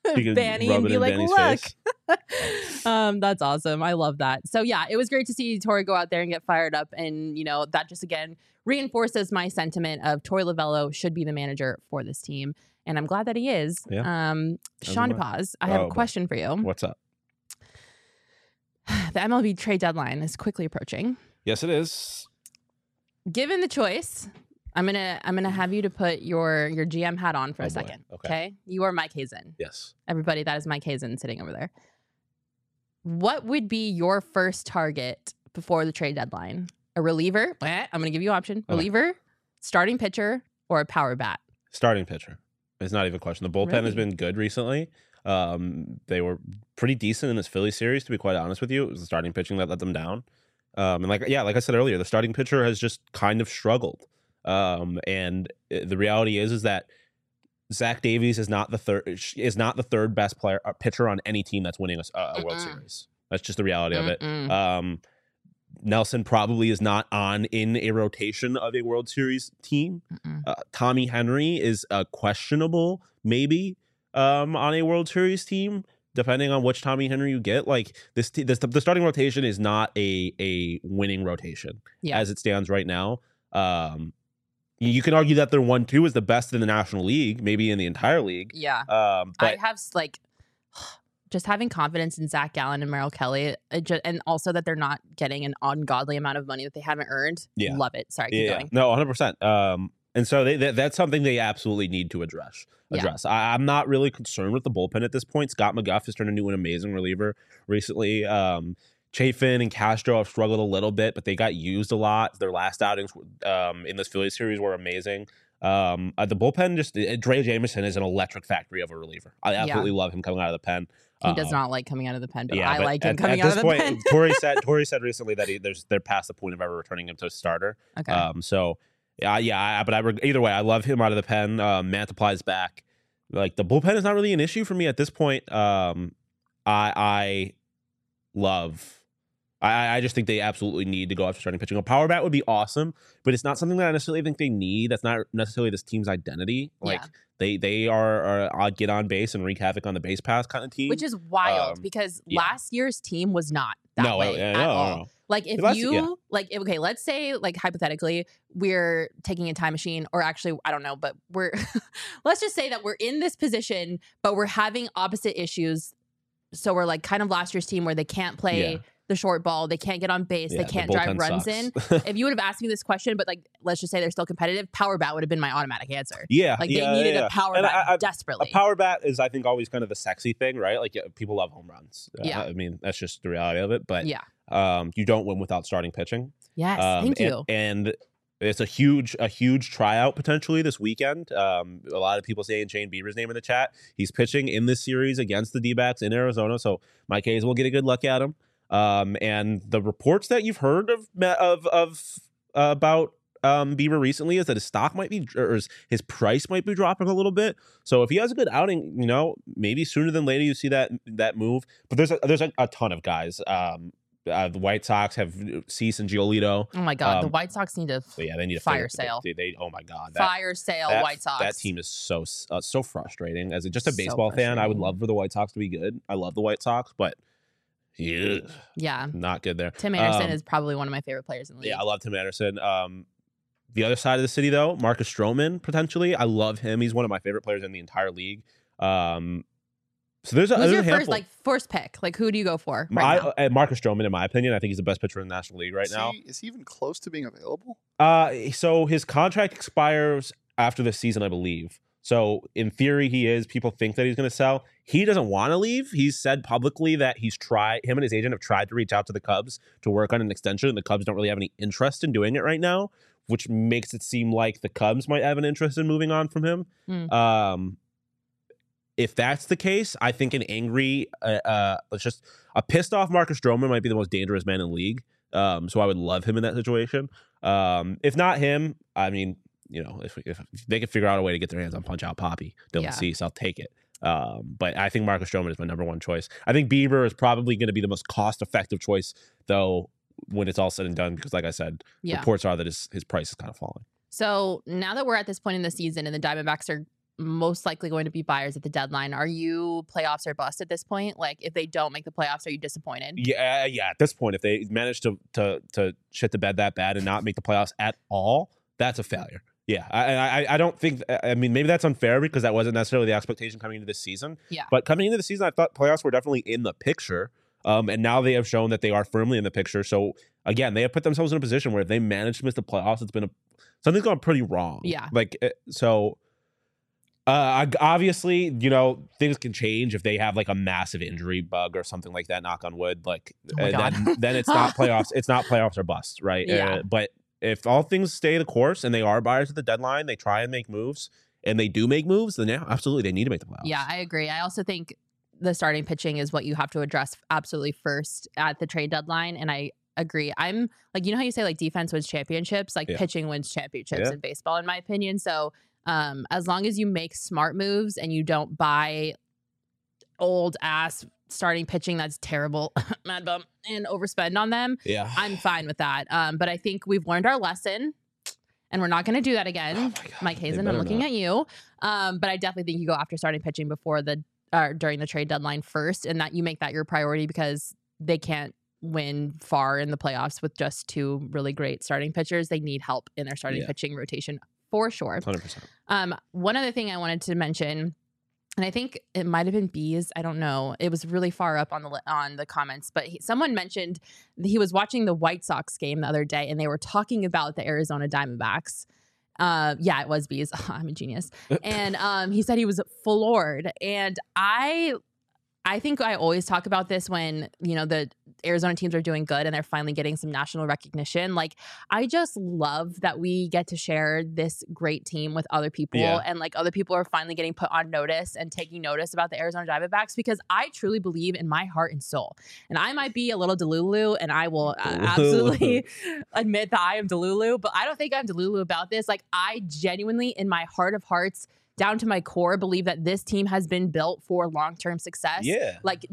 He could Banny rub and it be in like, Banny's look. face. That's awesome. I love that. So yeah, it was great to see Torrey go out there and get fired up. And, that just again reinforces my sentiment of Torrey Lovello should be the manager for this team. And I'm glad that he is. Yeah. Sean DePaz, I have a question for you. What's up? The MLB trade deadline is quickly approaching. Yes, it is. Given the choice, I'm gonna have you to put your GM hat on for a boy. second. Okay. Okay. You are Mike Hazen. Yes. Everybody, that is Mike Hazen sitting over there. What would be your first target before the trade deadline? A reliever? I'm going to give you an option. Okay. Reliever, starting pitcher, or a power bat? Starting pitcher. It's not even a question. The bullpen has Really? been good recently. They were pretty decent in this Philly series, to be quite honest with you. It was the starting pitching that let them down. And like I said earlier, the starting pitcher has just kind of struggled. And the reality is that Zach Davies is not the third best pitcher on any team that's winning a World Series. That's just the reality of it. Nelson probably is not in a rotation of a World Series team. Tommy Henry is questionable, maybe, on a World Series team, depending on which Tommy Henry you get. Like the starting rotation is not a winning rotation as it stands right now. You can argue that their 1-2 is the best in the National League, maybe in the entire league. Yeah. But I have just having confidence in Zach Gallen and Merrill Kelly, and also that they're not getting an ungodly amount of money that they haven't earned. Yeah. Love it. Sorry, keep going. No, 100%. And so that's something they absolutely need to address. I'm not really concerned with the bullpen at this point. Scott McGuff has turned into an amazing reliever recently. Chafin and Castro have struggled a little bit, but they got used a lot. Their last outings in this Phillies series were amazing. The bullpen, Dre Jameson is an electric factory of a reliever. I absolutely love him coming out of the pen. He does not like coming out of the pen, but yeah, I but like him coming out of the pen. Torrey said recently that they're past the point of ever returning him to a starter. Okay. But either way, I love him out of the pen. Mantiply's back. Like the bullpen is not really an issue for me at this point. I just think they absolutely need to go after starting pitching. A power bat would be awesome, but it's not something that I necessarily think they need. That's not necessarily this team's identity. Like they are a get on base and wreak havoc on the base pass kind of team, which is wild because last year's team was not that way at all. No. Like if okay, let's say like hypothetically we're taking a time machine, or actually I don't know, but we're let's just say that we're in this position, but we're having opposite issues. So we're like kind of last year's team where they can't play the short ball, they can't get on base, they can't drive runs in. If you would have asked me this question, but like let's just say they're still competitive, power bat would have been my automatic answer. They needed a power bat desperately. A power bat is, I think, always kind of the sexy thing, right? Like people love home runs. I mean, that's just the reality of it. But you don't win without starting pitching. Yes, thank you. And it's a huge tryout potentially this weekend. A lot of people saying Shane Bieber's name in the chat. He's pitching in this series against the D-backs in Arizona, so Mike Hayes will get a good look at him. And the reports that you've heard about Bieber recently is that his stock might be, or his price might be dropping a little bit. So if he has a good outing, maybe sooner than later you see that move. But there's a ton of guys. The White Sox have Cease and Giolito. Oh my God, the White Sox need to they need a fire sale. Oh my God, fire sale, White Sox. That team is so frustrating. As just a baseball fan, I would love for the White Sox to be good. I love the White Sox, but not good there. Tim Anderson is probably one of my favorite players in the league. Yeah, I love Tim Anderson. The other side of the city, though, Marcus Stroman, potentially. I love him. He's one of my favorite players in the entire league. So there's Who's your handful. first pick? Like, who do you go for now? Marcus Stroman, in my opinion, I think he's the best pitcher in the National League right now. Is he even close to being available? So his contract expires after this season, I believe. So in theory, he is. People think that he's going to sell. He doesn't want to leave. He's said publicly that him and his agent have tried to reach out to the Cubs to work on an extension, and the Cubs don't really have any interest in doing it right now, which makes it seem like the Cubs might have an interest in moving on from him. If that's the case, I think an angry, a pissed off Marcus Stroman might be the most dangerous man in the league. So I would love him in that situation. If not him, I mean, if they could figure out a way to get their hands on Punch Out Poppy, Dylan Cease, I'll take it. But I think Marcus Stroman is my number one choice. I think Bieber is probably going to be the most cost-effective choice, though, when it's all said and done, because like I said, reports are that his price is kind of falling. So now that we're at this point in the season and the Diamondbacks are most likely going to be buyers at the deadline. Are you playoffs or bust at this point? Like, if they don't make the playoffs, are you disappointed? Yeah. At this point, if they manage to shit the bed that bad and not make the playoffs at all, that's a failure. Yeah, I don't think. I mean, maybe that's unfair because that wasn't necessarily the expectation coming into this season. Yeah. But coming into the season, I thought playoffs were definitely in the picture. And now they have shown that they are firmly in the picture. So again, they have put themselves in a position where if they manage to miss the playoffs, it's been something's gone pretty wrong. Yeah. Like so. Obviously, things can change if they have like a massive injury bug or something like that. Knock on wood. Like then it's not playoffs. It's not playoffs or bust, right? Yeah. But if all things stay the course and they are buyers at the deadline, they try and make moves, and they do make moves, then yeah, absolutely, they need to make the playoffs. Yeah, I agree. I also think the starting pitching is what you have to address absolutely first at the trade deadline, and I agree. I'm like, how you say like defense wins championships, like pitching wins championships in baseball, in my opinion. So as long as you make smart moves and you don't buy old ass starting pitching that's terrible, mad bum, and overspend on them, I'm fine with that. But I think we've learned our lesson, and we're not going to do that again. Oh Mike Hazen, I'm looking at you. But I definitely think you go after starting pitching before during the trade deadline first, and that you make that your priority because they can't win far in the playoffs with just two really great starting pitchers. They need help in their starting pitching rotation for sure. 100%. One other thing I wanted to mention, and I think it might have been Bees. I don't know. It was really far up on the comments, but someone mentioned he was watching the White Sox game the other day, and they were talking about the Arizona Diamondbacks. Yeah, it was Bees. I'm a genius. And he said he was floored, and I think I always talk about this when, the Arizona teams are doing good and they're finally getting some national recognition. Like, I just love that we get to share this great team with other people and like other people are finally getting put on notice and taking notice about the Arizona Diamondbacks, because I truly believe in my heart and soul. And I might be a little delulu, and I will absolutely admit that I am delulu, but I don't think I'm delulu about this. Like, I genuinely, in my heart of hearts, down to my core, believe that this team has been built for long-term success. Yeah. Like,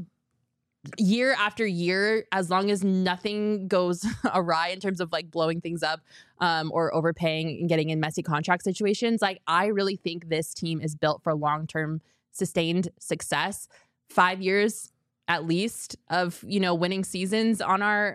year after year, as long as nothing goes awry in terms of like blowing things up or overpaying and getting in messy contract situations, like, I really think this team is built for long-term sustained success. 5 years at least of, winning seasons on our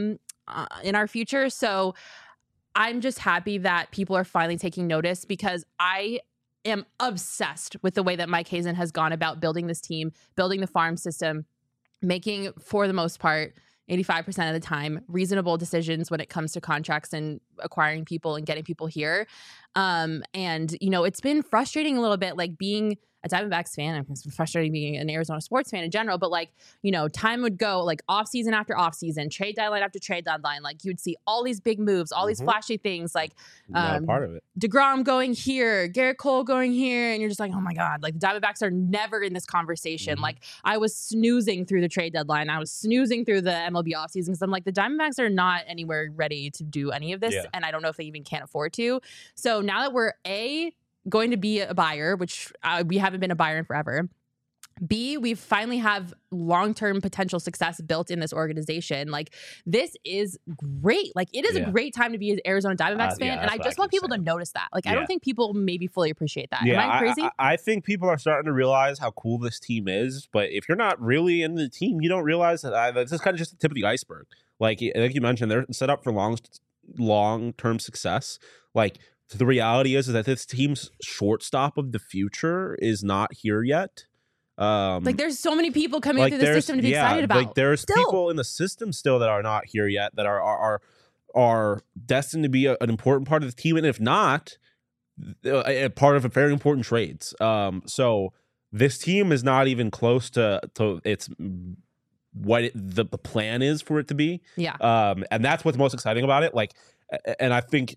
in our future. So I'm just happy that people are finally taking notice, because I am obsessed with the way that Mike Hazen has gone about building this team, building the farm system, making, for the most part, 85% of the time, reasonable decisions when it comes to contracts and acquiring people and getting people here. And, it's been frustrating a little bit, like being a Diamondbacks fan. It's frustrating being an Arizona sports fan in general, but like, time would go like off season after off season, trade deadline after trade deadline. Like, you'd see all these big moves, all these flashy things, like part of it. DeGrom going here, Garrett Cole going here. And you're just like, oh my God, like the Diamondbacks are never in this conversation. Like, I was snoozing through the trade deadline. I was snoozing through the MLB offseason because I'm like, the Diamondbacks are not anywhere ready to do any of this. Yeah. And I don't know if they even can't afford to. So now that we're going to be a buyer, which we haven't been a buyer in forever. B, we finally have long-term potential success built in this organization. Like, this is great. Like, it is a great time to be an Arizona Diamondbacks fan. And I just want people to notice that. Like, I don't think people maybe fully appreciate that. Yeah, am I crazy? I think people are starting to realize how cool this team is. But if you're not really in the team, you don't realize that this is kind of just the tip of the iceberg. Like you mentioned, they're set up for long-term success. Like, the reality is that this team's shortstop of the future is not here yet. Like, there's so many people coming through the system to be excited about. Like, there's people in the system still that are not here yet that are destined to be an important part of the team, and if not, a part of a very important trades. So this team is not even close to its what the plan is for it to be. Yeah. And that's what's most exciting about it. Like, and I think,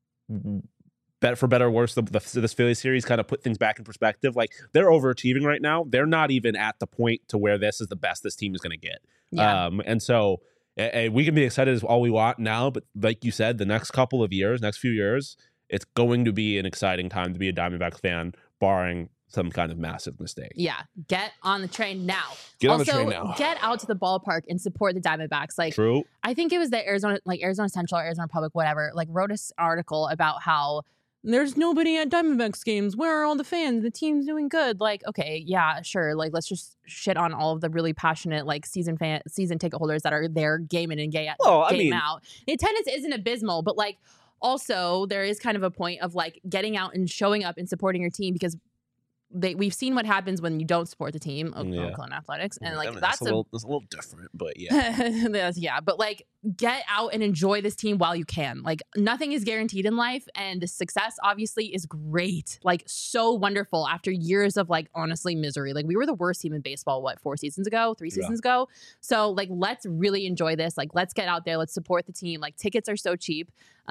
for better or worse, this Phillies series kind of put things back in perspective. Like, they're overachieving right now. They're not even at the point to where this is the best this team is going to get. Yeah. And so we can be excited as all we want now, but like you said, the next few years, it's going to be an exciting time to be a Diamondbacks fan, barring some kind of massive mistake. Yeah. Get on the train now. Get on the train now. Get out to the ballpark and support the Diamondbacks. Like, True. I think it was the Arizona Central, Arizona Public, whatever, like, wrote an article about how there's nobody at Diamondbacks games. Where are all the fans? The team's doing good. Like, okay, yeah, sure. Like, let's just shit on all of the really passionate like season ticket holders that are there game in and game out. The attendance isn't abysmal, but like also there is kind of a point of like getting out and showing up and supporting your team, because we've seen what happens when you don't support the team, Oakland Athletics, and like that's a little different, but yeah, yeah. But like, get out and enjoy this team while you can. Like, nothing is guaranteed in life, and the success obviously is great, like so wonderful after years of like honestly misery. Like, we were the worst team in baseball 3 seasons ago. So like, let's really enjoy this. Like, let's get out there, let's support the team. Like, tickets are so cheap,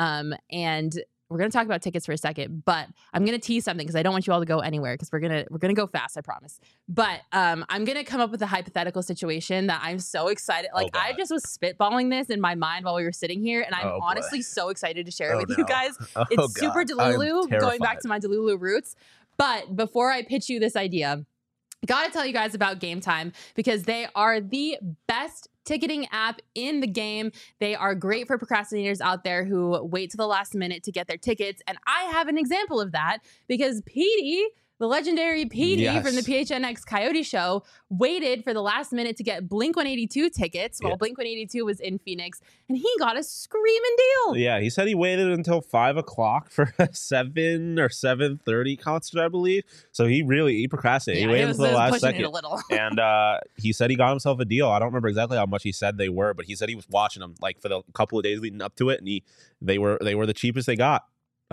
and we're going to talk about tickets for a second, but I'm going to tease something because I don't want you all to go anywhere, because we're going to go fast, I promise. But I'm going to come up with a hypothetical situation that I'm so excited. Like, I just was spitballing this in my mind while we were sitting here, and I'm honestly so excited to share it with you guys. It's super Delulu, going back to my Delulu roots. But before I pitch you this idea, got to tell you guys about Game Time, because they are the best ticketing app in the game. They are great for procrastinators out there who wait to the last minute to get their tickets. And I have an example of that, because Petey, the legendary Petey from the PHNX Coyote Show, waited for the last minute to get Blink-182 tickets while Blink-182 was in Phoenix, and he got a screaming deal. Yeah, he said he waited until 5 o'clock for a 7 or 7:30 concert, I believe. So he procrastinated. He waited until the last second. And he said he got himself a deal. I don't remember exactly how much he said they were, but he said he was watching them like for the couple of days leading up to it, and they were the cheapest they got.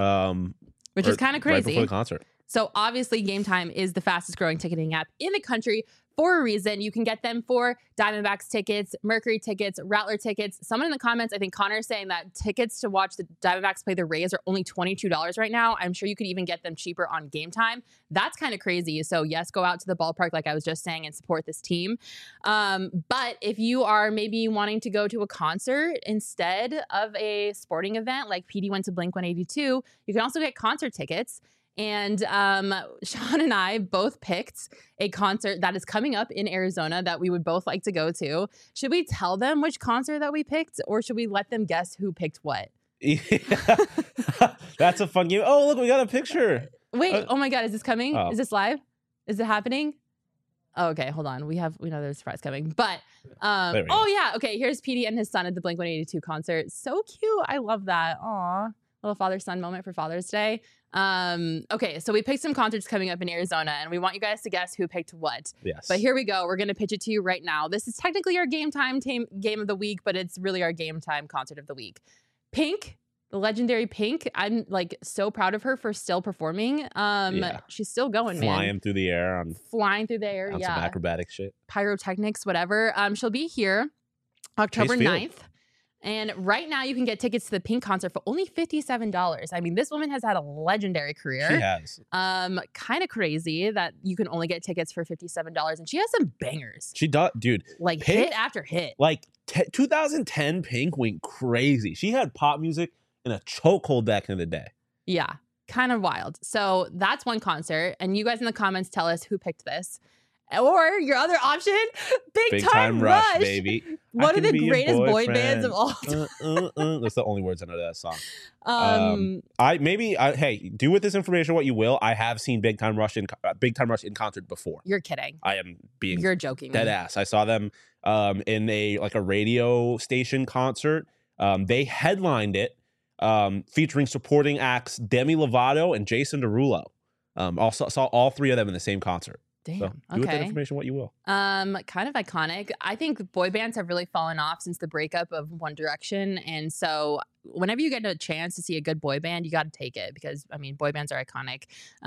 Which is kind of crazy. Right before the concert. So obviously Game Time is the fastest growing ticketing app in the country for a reason. You can get them for Diamondbacks tickets, Mercury tickets, Rattler tickets. Someone in the comments, I think Connor, is saying that tickets to watch the Diamondbacks play the Rays are only $22 right now. I'm sure you could even get them cheaper on Game Time. That's kind of crazy. So yes, go out to the ballpark, like I was just saying, and support this team. But if you are maybe wanting to go to a concert instead of a sporting event, like PD went to Blink-182, you can also get concert tickets. And Sean and I both picked a concert that is coming up in Arizona that we would both like to go to. Should we tell them which concert that we picked, or should we let them guess who picked what? Yeah. That's a fun game. Oh, look, we got a picture. Wait, oh my God, is this coming? Is this live? Is it happening? Oh, okay, hold on. We know there's a surprise coming. But, yeah. Okay, here's Petey and his son at the Blink-182 concert. So cute. I love that. Aw. Little father-son moment for Father's Day. Okay, so we picked some concerts coming up in Arizona, and we want you guys to guess who picked what. Yes. But here we go. We're going to pitch it to you right now. This is technically our game of the week, but it's really our Game Time concert of the week. Pink, the legendary Pink. I'm like so proud of her for still performing. She's still going, flying through the air on some acrobatic shit. Pyrotechnics, whatever. She'll be here October 9th. And right now you can get tickets to the Pink concert for only $57. I mean, this woman has had a legendary career. She has. Kind of crazy that you can only get tickets for $57, and she has some bangers. She does, dude. Like Pink, hit after hit. Like 2010 Pink went crazy. She had pop music in a chokehold back in the day. Yeah, kind of wild. So that's one concert, and you guys in the comments tell us who picked this. Or your other option, Big Time Rush, baby. One of the greatest boy bands of all time. That's the only words I know to that song. Hey, do with this information what you will. I have seen Big Time Rush in concert before. You're kidding. You're joking. Dead ass. I saw them in a radio station concert. They headlined it, featuring supporting acts Demi Lovato and Jason Derulo. Also saw all three of them in the same concert. Damn. So do with that information what you will. Kind of iconic. I think boy bands have really fallen off since the breakup of One Direction. And so whenever you get a chance to see a good boy band, you got to take it because, I mean, boy bands are iconic.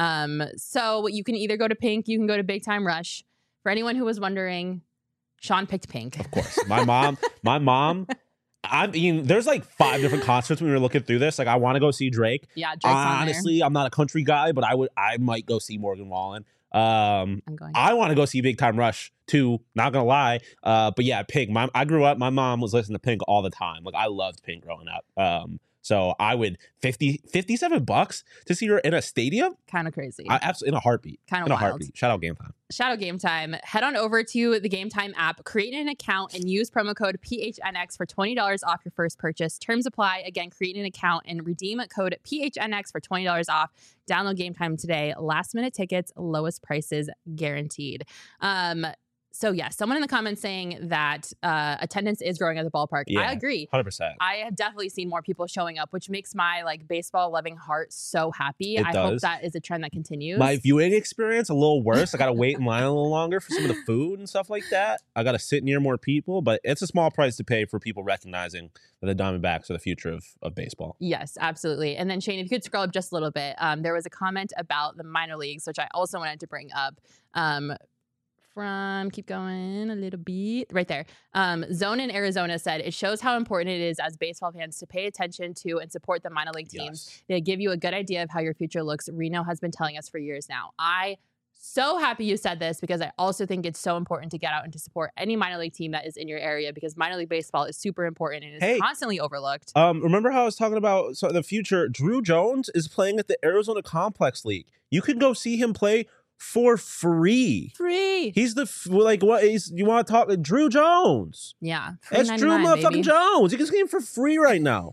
So you can either go to Pink, you can go to Big Time Rush. For anyone who was wondering, Sean picked Pink. Of course. My mom, I mean, there's like 5 different concerts when we were looking through this. Like, I want to go see Drake. Yeah, Drake's honestly, I'm not a country guy, but I might go see Morgan Wallen. I want to go see Big Time Rush too, not gonna lie. But yeah, Pink. I grew up, my mom was listening to Pink all the time. Like, I loved Pink growing up. So I would $57 to see her in a stadium. Kind of crazy. Absolutely, in a heartbeat. Kind of in a wild. heartbeat. Shout out Game Time. Shout out Game Time. Head on over to the Game Time app, create an account, and use promo code PHNX for $20 off your first purchase. Terms apply. Again, create an account and redeem code PHNX for $20 off. Download Game Time today. Last minute tickets, lowest prices guaranteed. So yeah, someone in the comments saying that attendance is growing at the ballpark. Yeah, I agree. 100%. I have definitely seen more people showing up, which makes my baseball loving heart so happy. It I does. hope that is a trend that continues. My viewing experience a little worse. I got to wait in line a little longer for some of the food and stuff like that. I got to sit near more people, but it's a small price to pay for people recognizing that the Diamondbacks are the future of baseball. Yes, absolutely. And then Shane, if you could scroll up just a little bit, there was a comment about the minor leagues, which I also wanted to bring up. Keep going a little bit right there. Zone in Arizona said it shows how important it is as baseball fans to pay attention to and support the minor league teams. Yes. They give you a good idea of how your future looks. Reno has been telling us for years now. So happy you said this because I also think it's so important to get out and to support any minor league team that is in your area because minor league baseball is super important and is constantly overlooked. Remember how I was talking about the future? Drew Jones is playing at the Arizona Complex League. You can go see him play for free. He's you want to talk Drew Jones? Yeah. That's Drew motherfucking Jones. You can see him for free right now.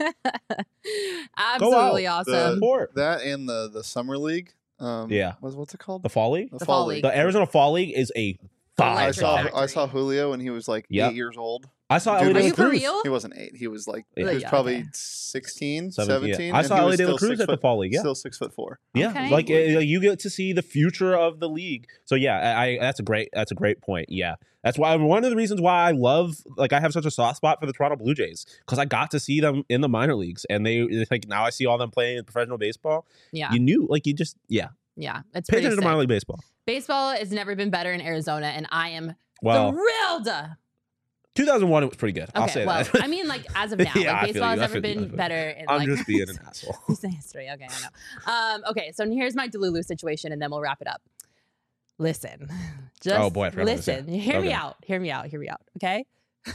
Absolutely awesome. That and the summer league. What's it called? The Fall League? The Fall League. The Arizona Fall League is a I saw Julio when he was 8 years old. I saw Are you for real? He wasn't 8. He was probably 16, 17. Yeah. I saw Ellie De La Cruz at the Fall League. Yeah. Still 6'4". Yeah, Okay. You get to see the future of the league. So yeah, that's a great point. Yeah, that's why one of the reasons why I love I have such a soft spot for the Toronto Blue Jays because I got to see them in the minor leagues and they now I see all them playing in professional baseball. Yeah, you knew it's pay attention to minor league baseball. Baseball has never been better in Arizona, and I am thrilled. 2001, it was pretty good. I'll say that. I mean, as of now, baseball has never been better. I'm just being an asshole. History. Okay, I know. Okay, so here's my Delulu situation, and then we'll wrap it up. Listen, listen. Hear me out. Okay.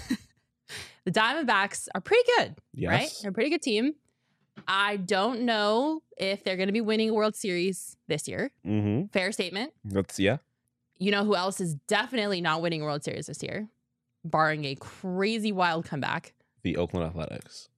The Diamondbacks are pretty good, right? They're a pretty good team. I don't know if they're going to be winning a World Series this year. Mm-hmm. Fair statement. You know who else is definitely not winning a World Series this year, barring a crazy wild comeback? The Oakland Athletics.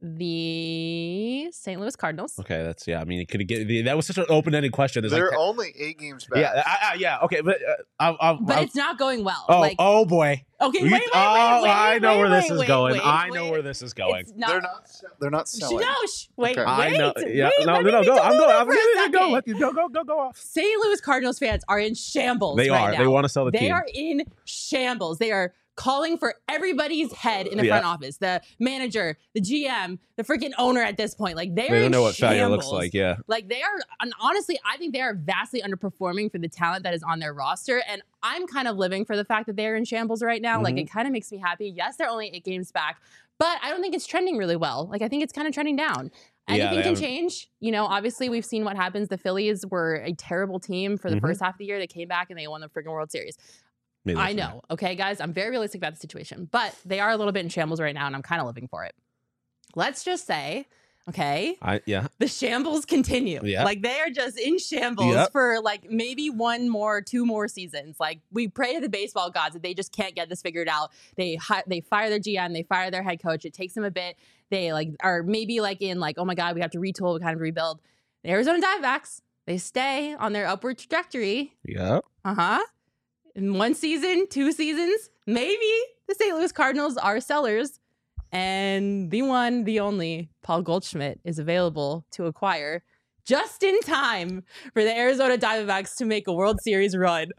The St. Louis Cardinals. Okay, it could get that was such an open-ended question. They're only 8 games back. Okay, but but it's not going well. Oh boy. Okay, wait. I know where this is going. I know where this is going. They're not selling. No, wait. I know. Yeah. Wait, No. Go. I'm going to go. Go off. St. Louis Cardinals fans are in shambles. They are. Now. They want to sell the team. They are in shambles. They are calling for everybody's head in the front office, the manager, the GM, the freaking owner at this point. They don't know what failure looks like, yeah. They are, and honestly, I think they are vastly underperforming for the talent that is on their roster. And I'm kind of living for the fact that they're in shambles right now. Mm-hmm. It kind of makes me happy. Yes, they're only 8 games back, but I don't think it's trending really well. I think it's kind of trending down. Anything can change. Obviously, we've seen what happens. The Phillies were a terrible team for the first half of the year. They came back and they won the freaking World Series. I know. Okay, guys, I'm very realistic about the situation, but they are a little bit in shambles right now, and I'm kind of living for it. Let's just say, okay, the shambles continue. Yeah. They are just in shambles for maybe 1 more, 2 more seasons. We pray to the baseball gods that they just can't get this figured out. They fire their GM, they fire their head coach. It takes them a bit. They are maybe in oh my God, we have to retool, we kind of rebuild. The Arizona Diamondbacks, they stay on their upward trajectory. Yeah. In 1 season, 2 seasons, maybe the St. Louis Cardinals are sellers, and the one, the only, Paul Goldschmidt is available to acquire just in time for the Arizona Diamondbacks to make a World Series run.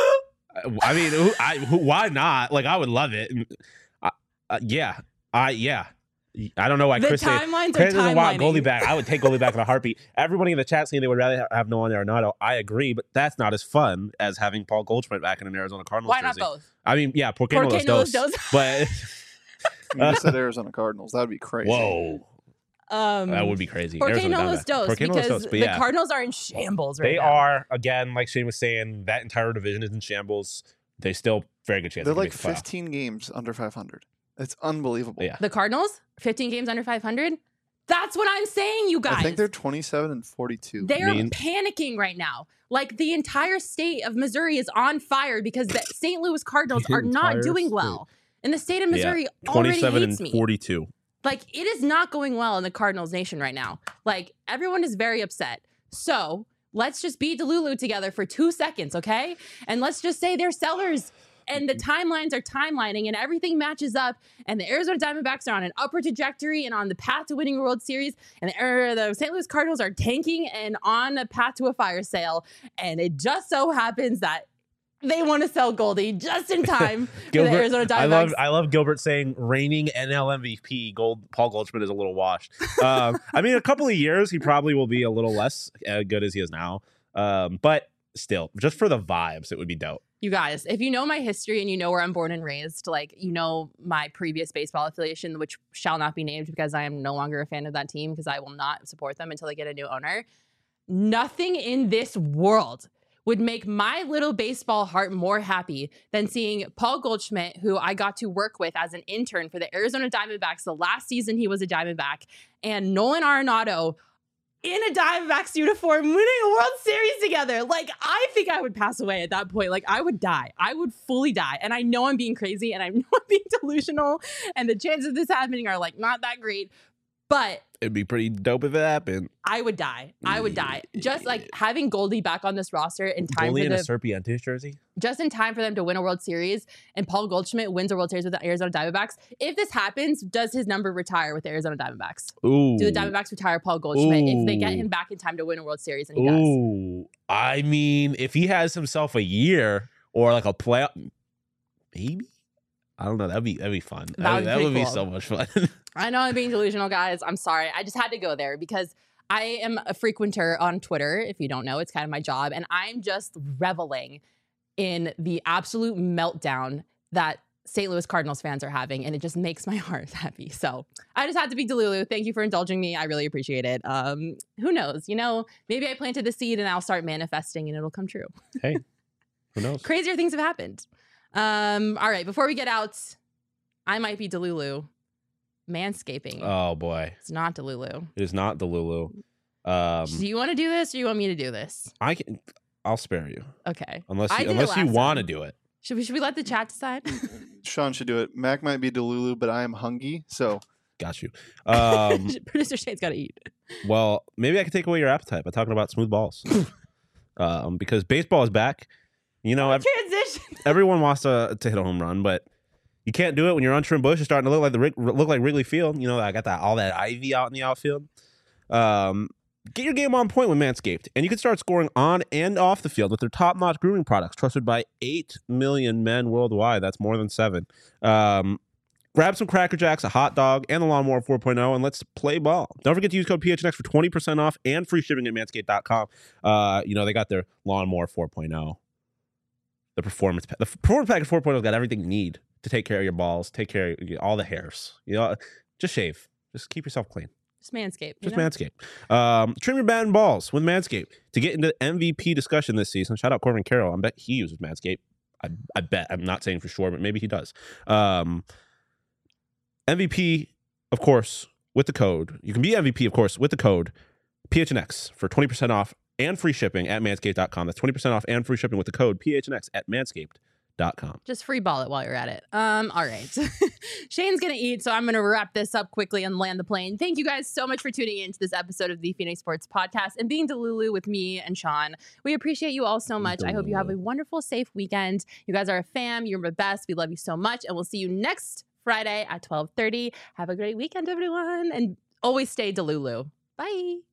I mean, why not? I would love it. I don't know why Chris doesn't want Goldie back. I would take Goldie back in a heartbeat. Everybody in the chat saying they would rather have Nolan Arenado. I agree, but that's not as fun as having Paul Goldschmidt back in an Arizona Cardinals Why jersey. not both? I mean, yeah, ¿Por qué no los dos? But you said Arizona Cardinals. That would be crazy. Whoa. That would be crazy. ¿Por qué no los dos? Because the Cardinals are in shambles right now. They are, again, like Shane was saying, that entire division is in shambles. They still very good chance. They're 15 games under 500. It's unbelievable. Yeah. The Cardinals, 15 games under 500. That's what I'm saying, you guys. I think they're 27-42. They're panicking right now. Like the entire state of Missouri is on fire because the St. Louis Cardinals are not doing well. And the state of Missouri already hates me. 27-42. Like it is not going well in the Cardinals nation right now. Like everyone is very upset. So let's just be Delulu together for 2 seconds, okay? And let's just say they're sellers. And the timelines are timelining and everything matches up. And the Arizona Diamondbacks are on an upward trajectory and on the path to winning a World Series. And the St. Louis Cardinals are tanking and on a path to a fire sale. And it just so happens that they want to sell Goldie just in time for the Arizona Diamondbacks. I love Gilbert saying reigning NL MVP Paul Goldschmidt is a little washed. I mean, a couple of years, he probably will be a little less good as he is now. But still, just for the vibes, it would be dope. You guys, if you know my history and you know where I'm born and raised, like, you know, my previous baseball affiliation, which shall not be named because I am no longer a fan of that team because I will not support them until they get a new owner. Nothing in this world would make my little baseball heart more happy than seeing Paul Goldschmidt, who I got to work with as an intern for the Arizona Diamondbacks the last season he was a Diamondback, and Nolan Arenado in a Diamondbacks uniform winning a World Series together. Like, I think I would pass away at that point. Like, I would die. I would fully die. And I know I'm being crazy and I know I'm being delusional and the chances of this happening are like not that great. But it'd be pretty dope if it happened. I would die. I would die. Just like having Goldie back on this roster in time Goldie for in a Serpientes jersey? Just in time for them to win a World Series, and Paul Goldschmidt wins a World Series with the Arizona Diamondbacks. If this happens, does his number retire with the Arizona Diamondbacks? Ooh. Do the Diamondbacks retire Paul Goldschmidt if they get him back in time to win a World Series and he does? I mean, if he has himself a year or like a playoff, maybe? I don't know. That'd be fun. That would be so much fun. I know I'm being delusional, guys. I'm sorry. I just had to go there because I am a frequenter on Twitter. If you don't know, it's kind of my job. And I'm just reveling in the absolute meltdown that St. Louis Cardinals fans are having. And it just makes my heart happy. So I just had to be Delulu. Thank you for indulging me. I really appreciate it. Who knows? You know, maybe I planted the seed and I'll start manifesting and it'll come true. Hey, who knows? Crazier things have happened. All right. Before we get out, I might be Delulu. Manscaping. Oh boy, it's not Delulu. It is not Delulu. Do you want to do this, or do you want me to do this? I'll spare you. Okay. Unless you want to do it. Should we let the chat decide? Sean should do it. Mac might be Delulu, but I am hungry, so got you. Producer Shane's got to eat. Well, maybe I can take away your appetite by talking about smooth balls. Because baseball is back. You know, everyone wants to hit a home run, but you can't do it when your untrimmed bush is starting to look like Wrigley Field. You know, I got all that ivy out in the outfield. Get your game on point with Manscaped, and you can start scoring on and off the field with their top-notch grooming products, trusted by 8 million men worldwide. That's more than 7. Grab some Cracker Jacks, a hot dog, and the Lawnmower 4.0, and let's play ball. Don't forget to use code PHNX for 20% off and free shipping at Manscaped.com. You know, they got their Lawnmower 4.0. The Performance Package 4.0 has got everything you need to take care of your balls, take care of all the hairs. You know, just shave. Just keep yourself clean. Just Manscaped. Manscaped. Trim your bad balls with Manscaped. To get into MVP discussion this season, shout out Corbin Carroll. I bet he uses Manscaped. I bet. I'm not saying for sure, but maybe he does. MVP, of course, with the code. You can be MVP, of course, with the code PHNX for 20% off and free shipping at Manscaped.com. That's 20% off and free shipping with the code PHNX at Manscaped.com. Just free ball it while you're at it. All right. Shane's going to eat, so I'm going to wrap this up quickly and land the plane. Thank you guys so much for tuning in to this episode of the Phoenix Sports Podcast and being Delulu with me and Sean. We appreciate you all so much. I hope you have a wonderful, safe weekend. You guys are a fam. You're the best. We love you so much, and we'll see you next Friday at 12:30. Have a great weekend, everyone, and always stay Delulu. Bye.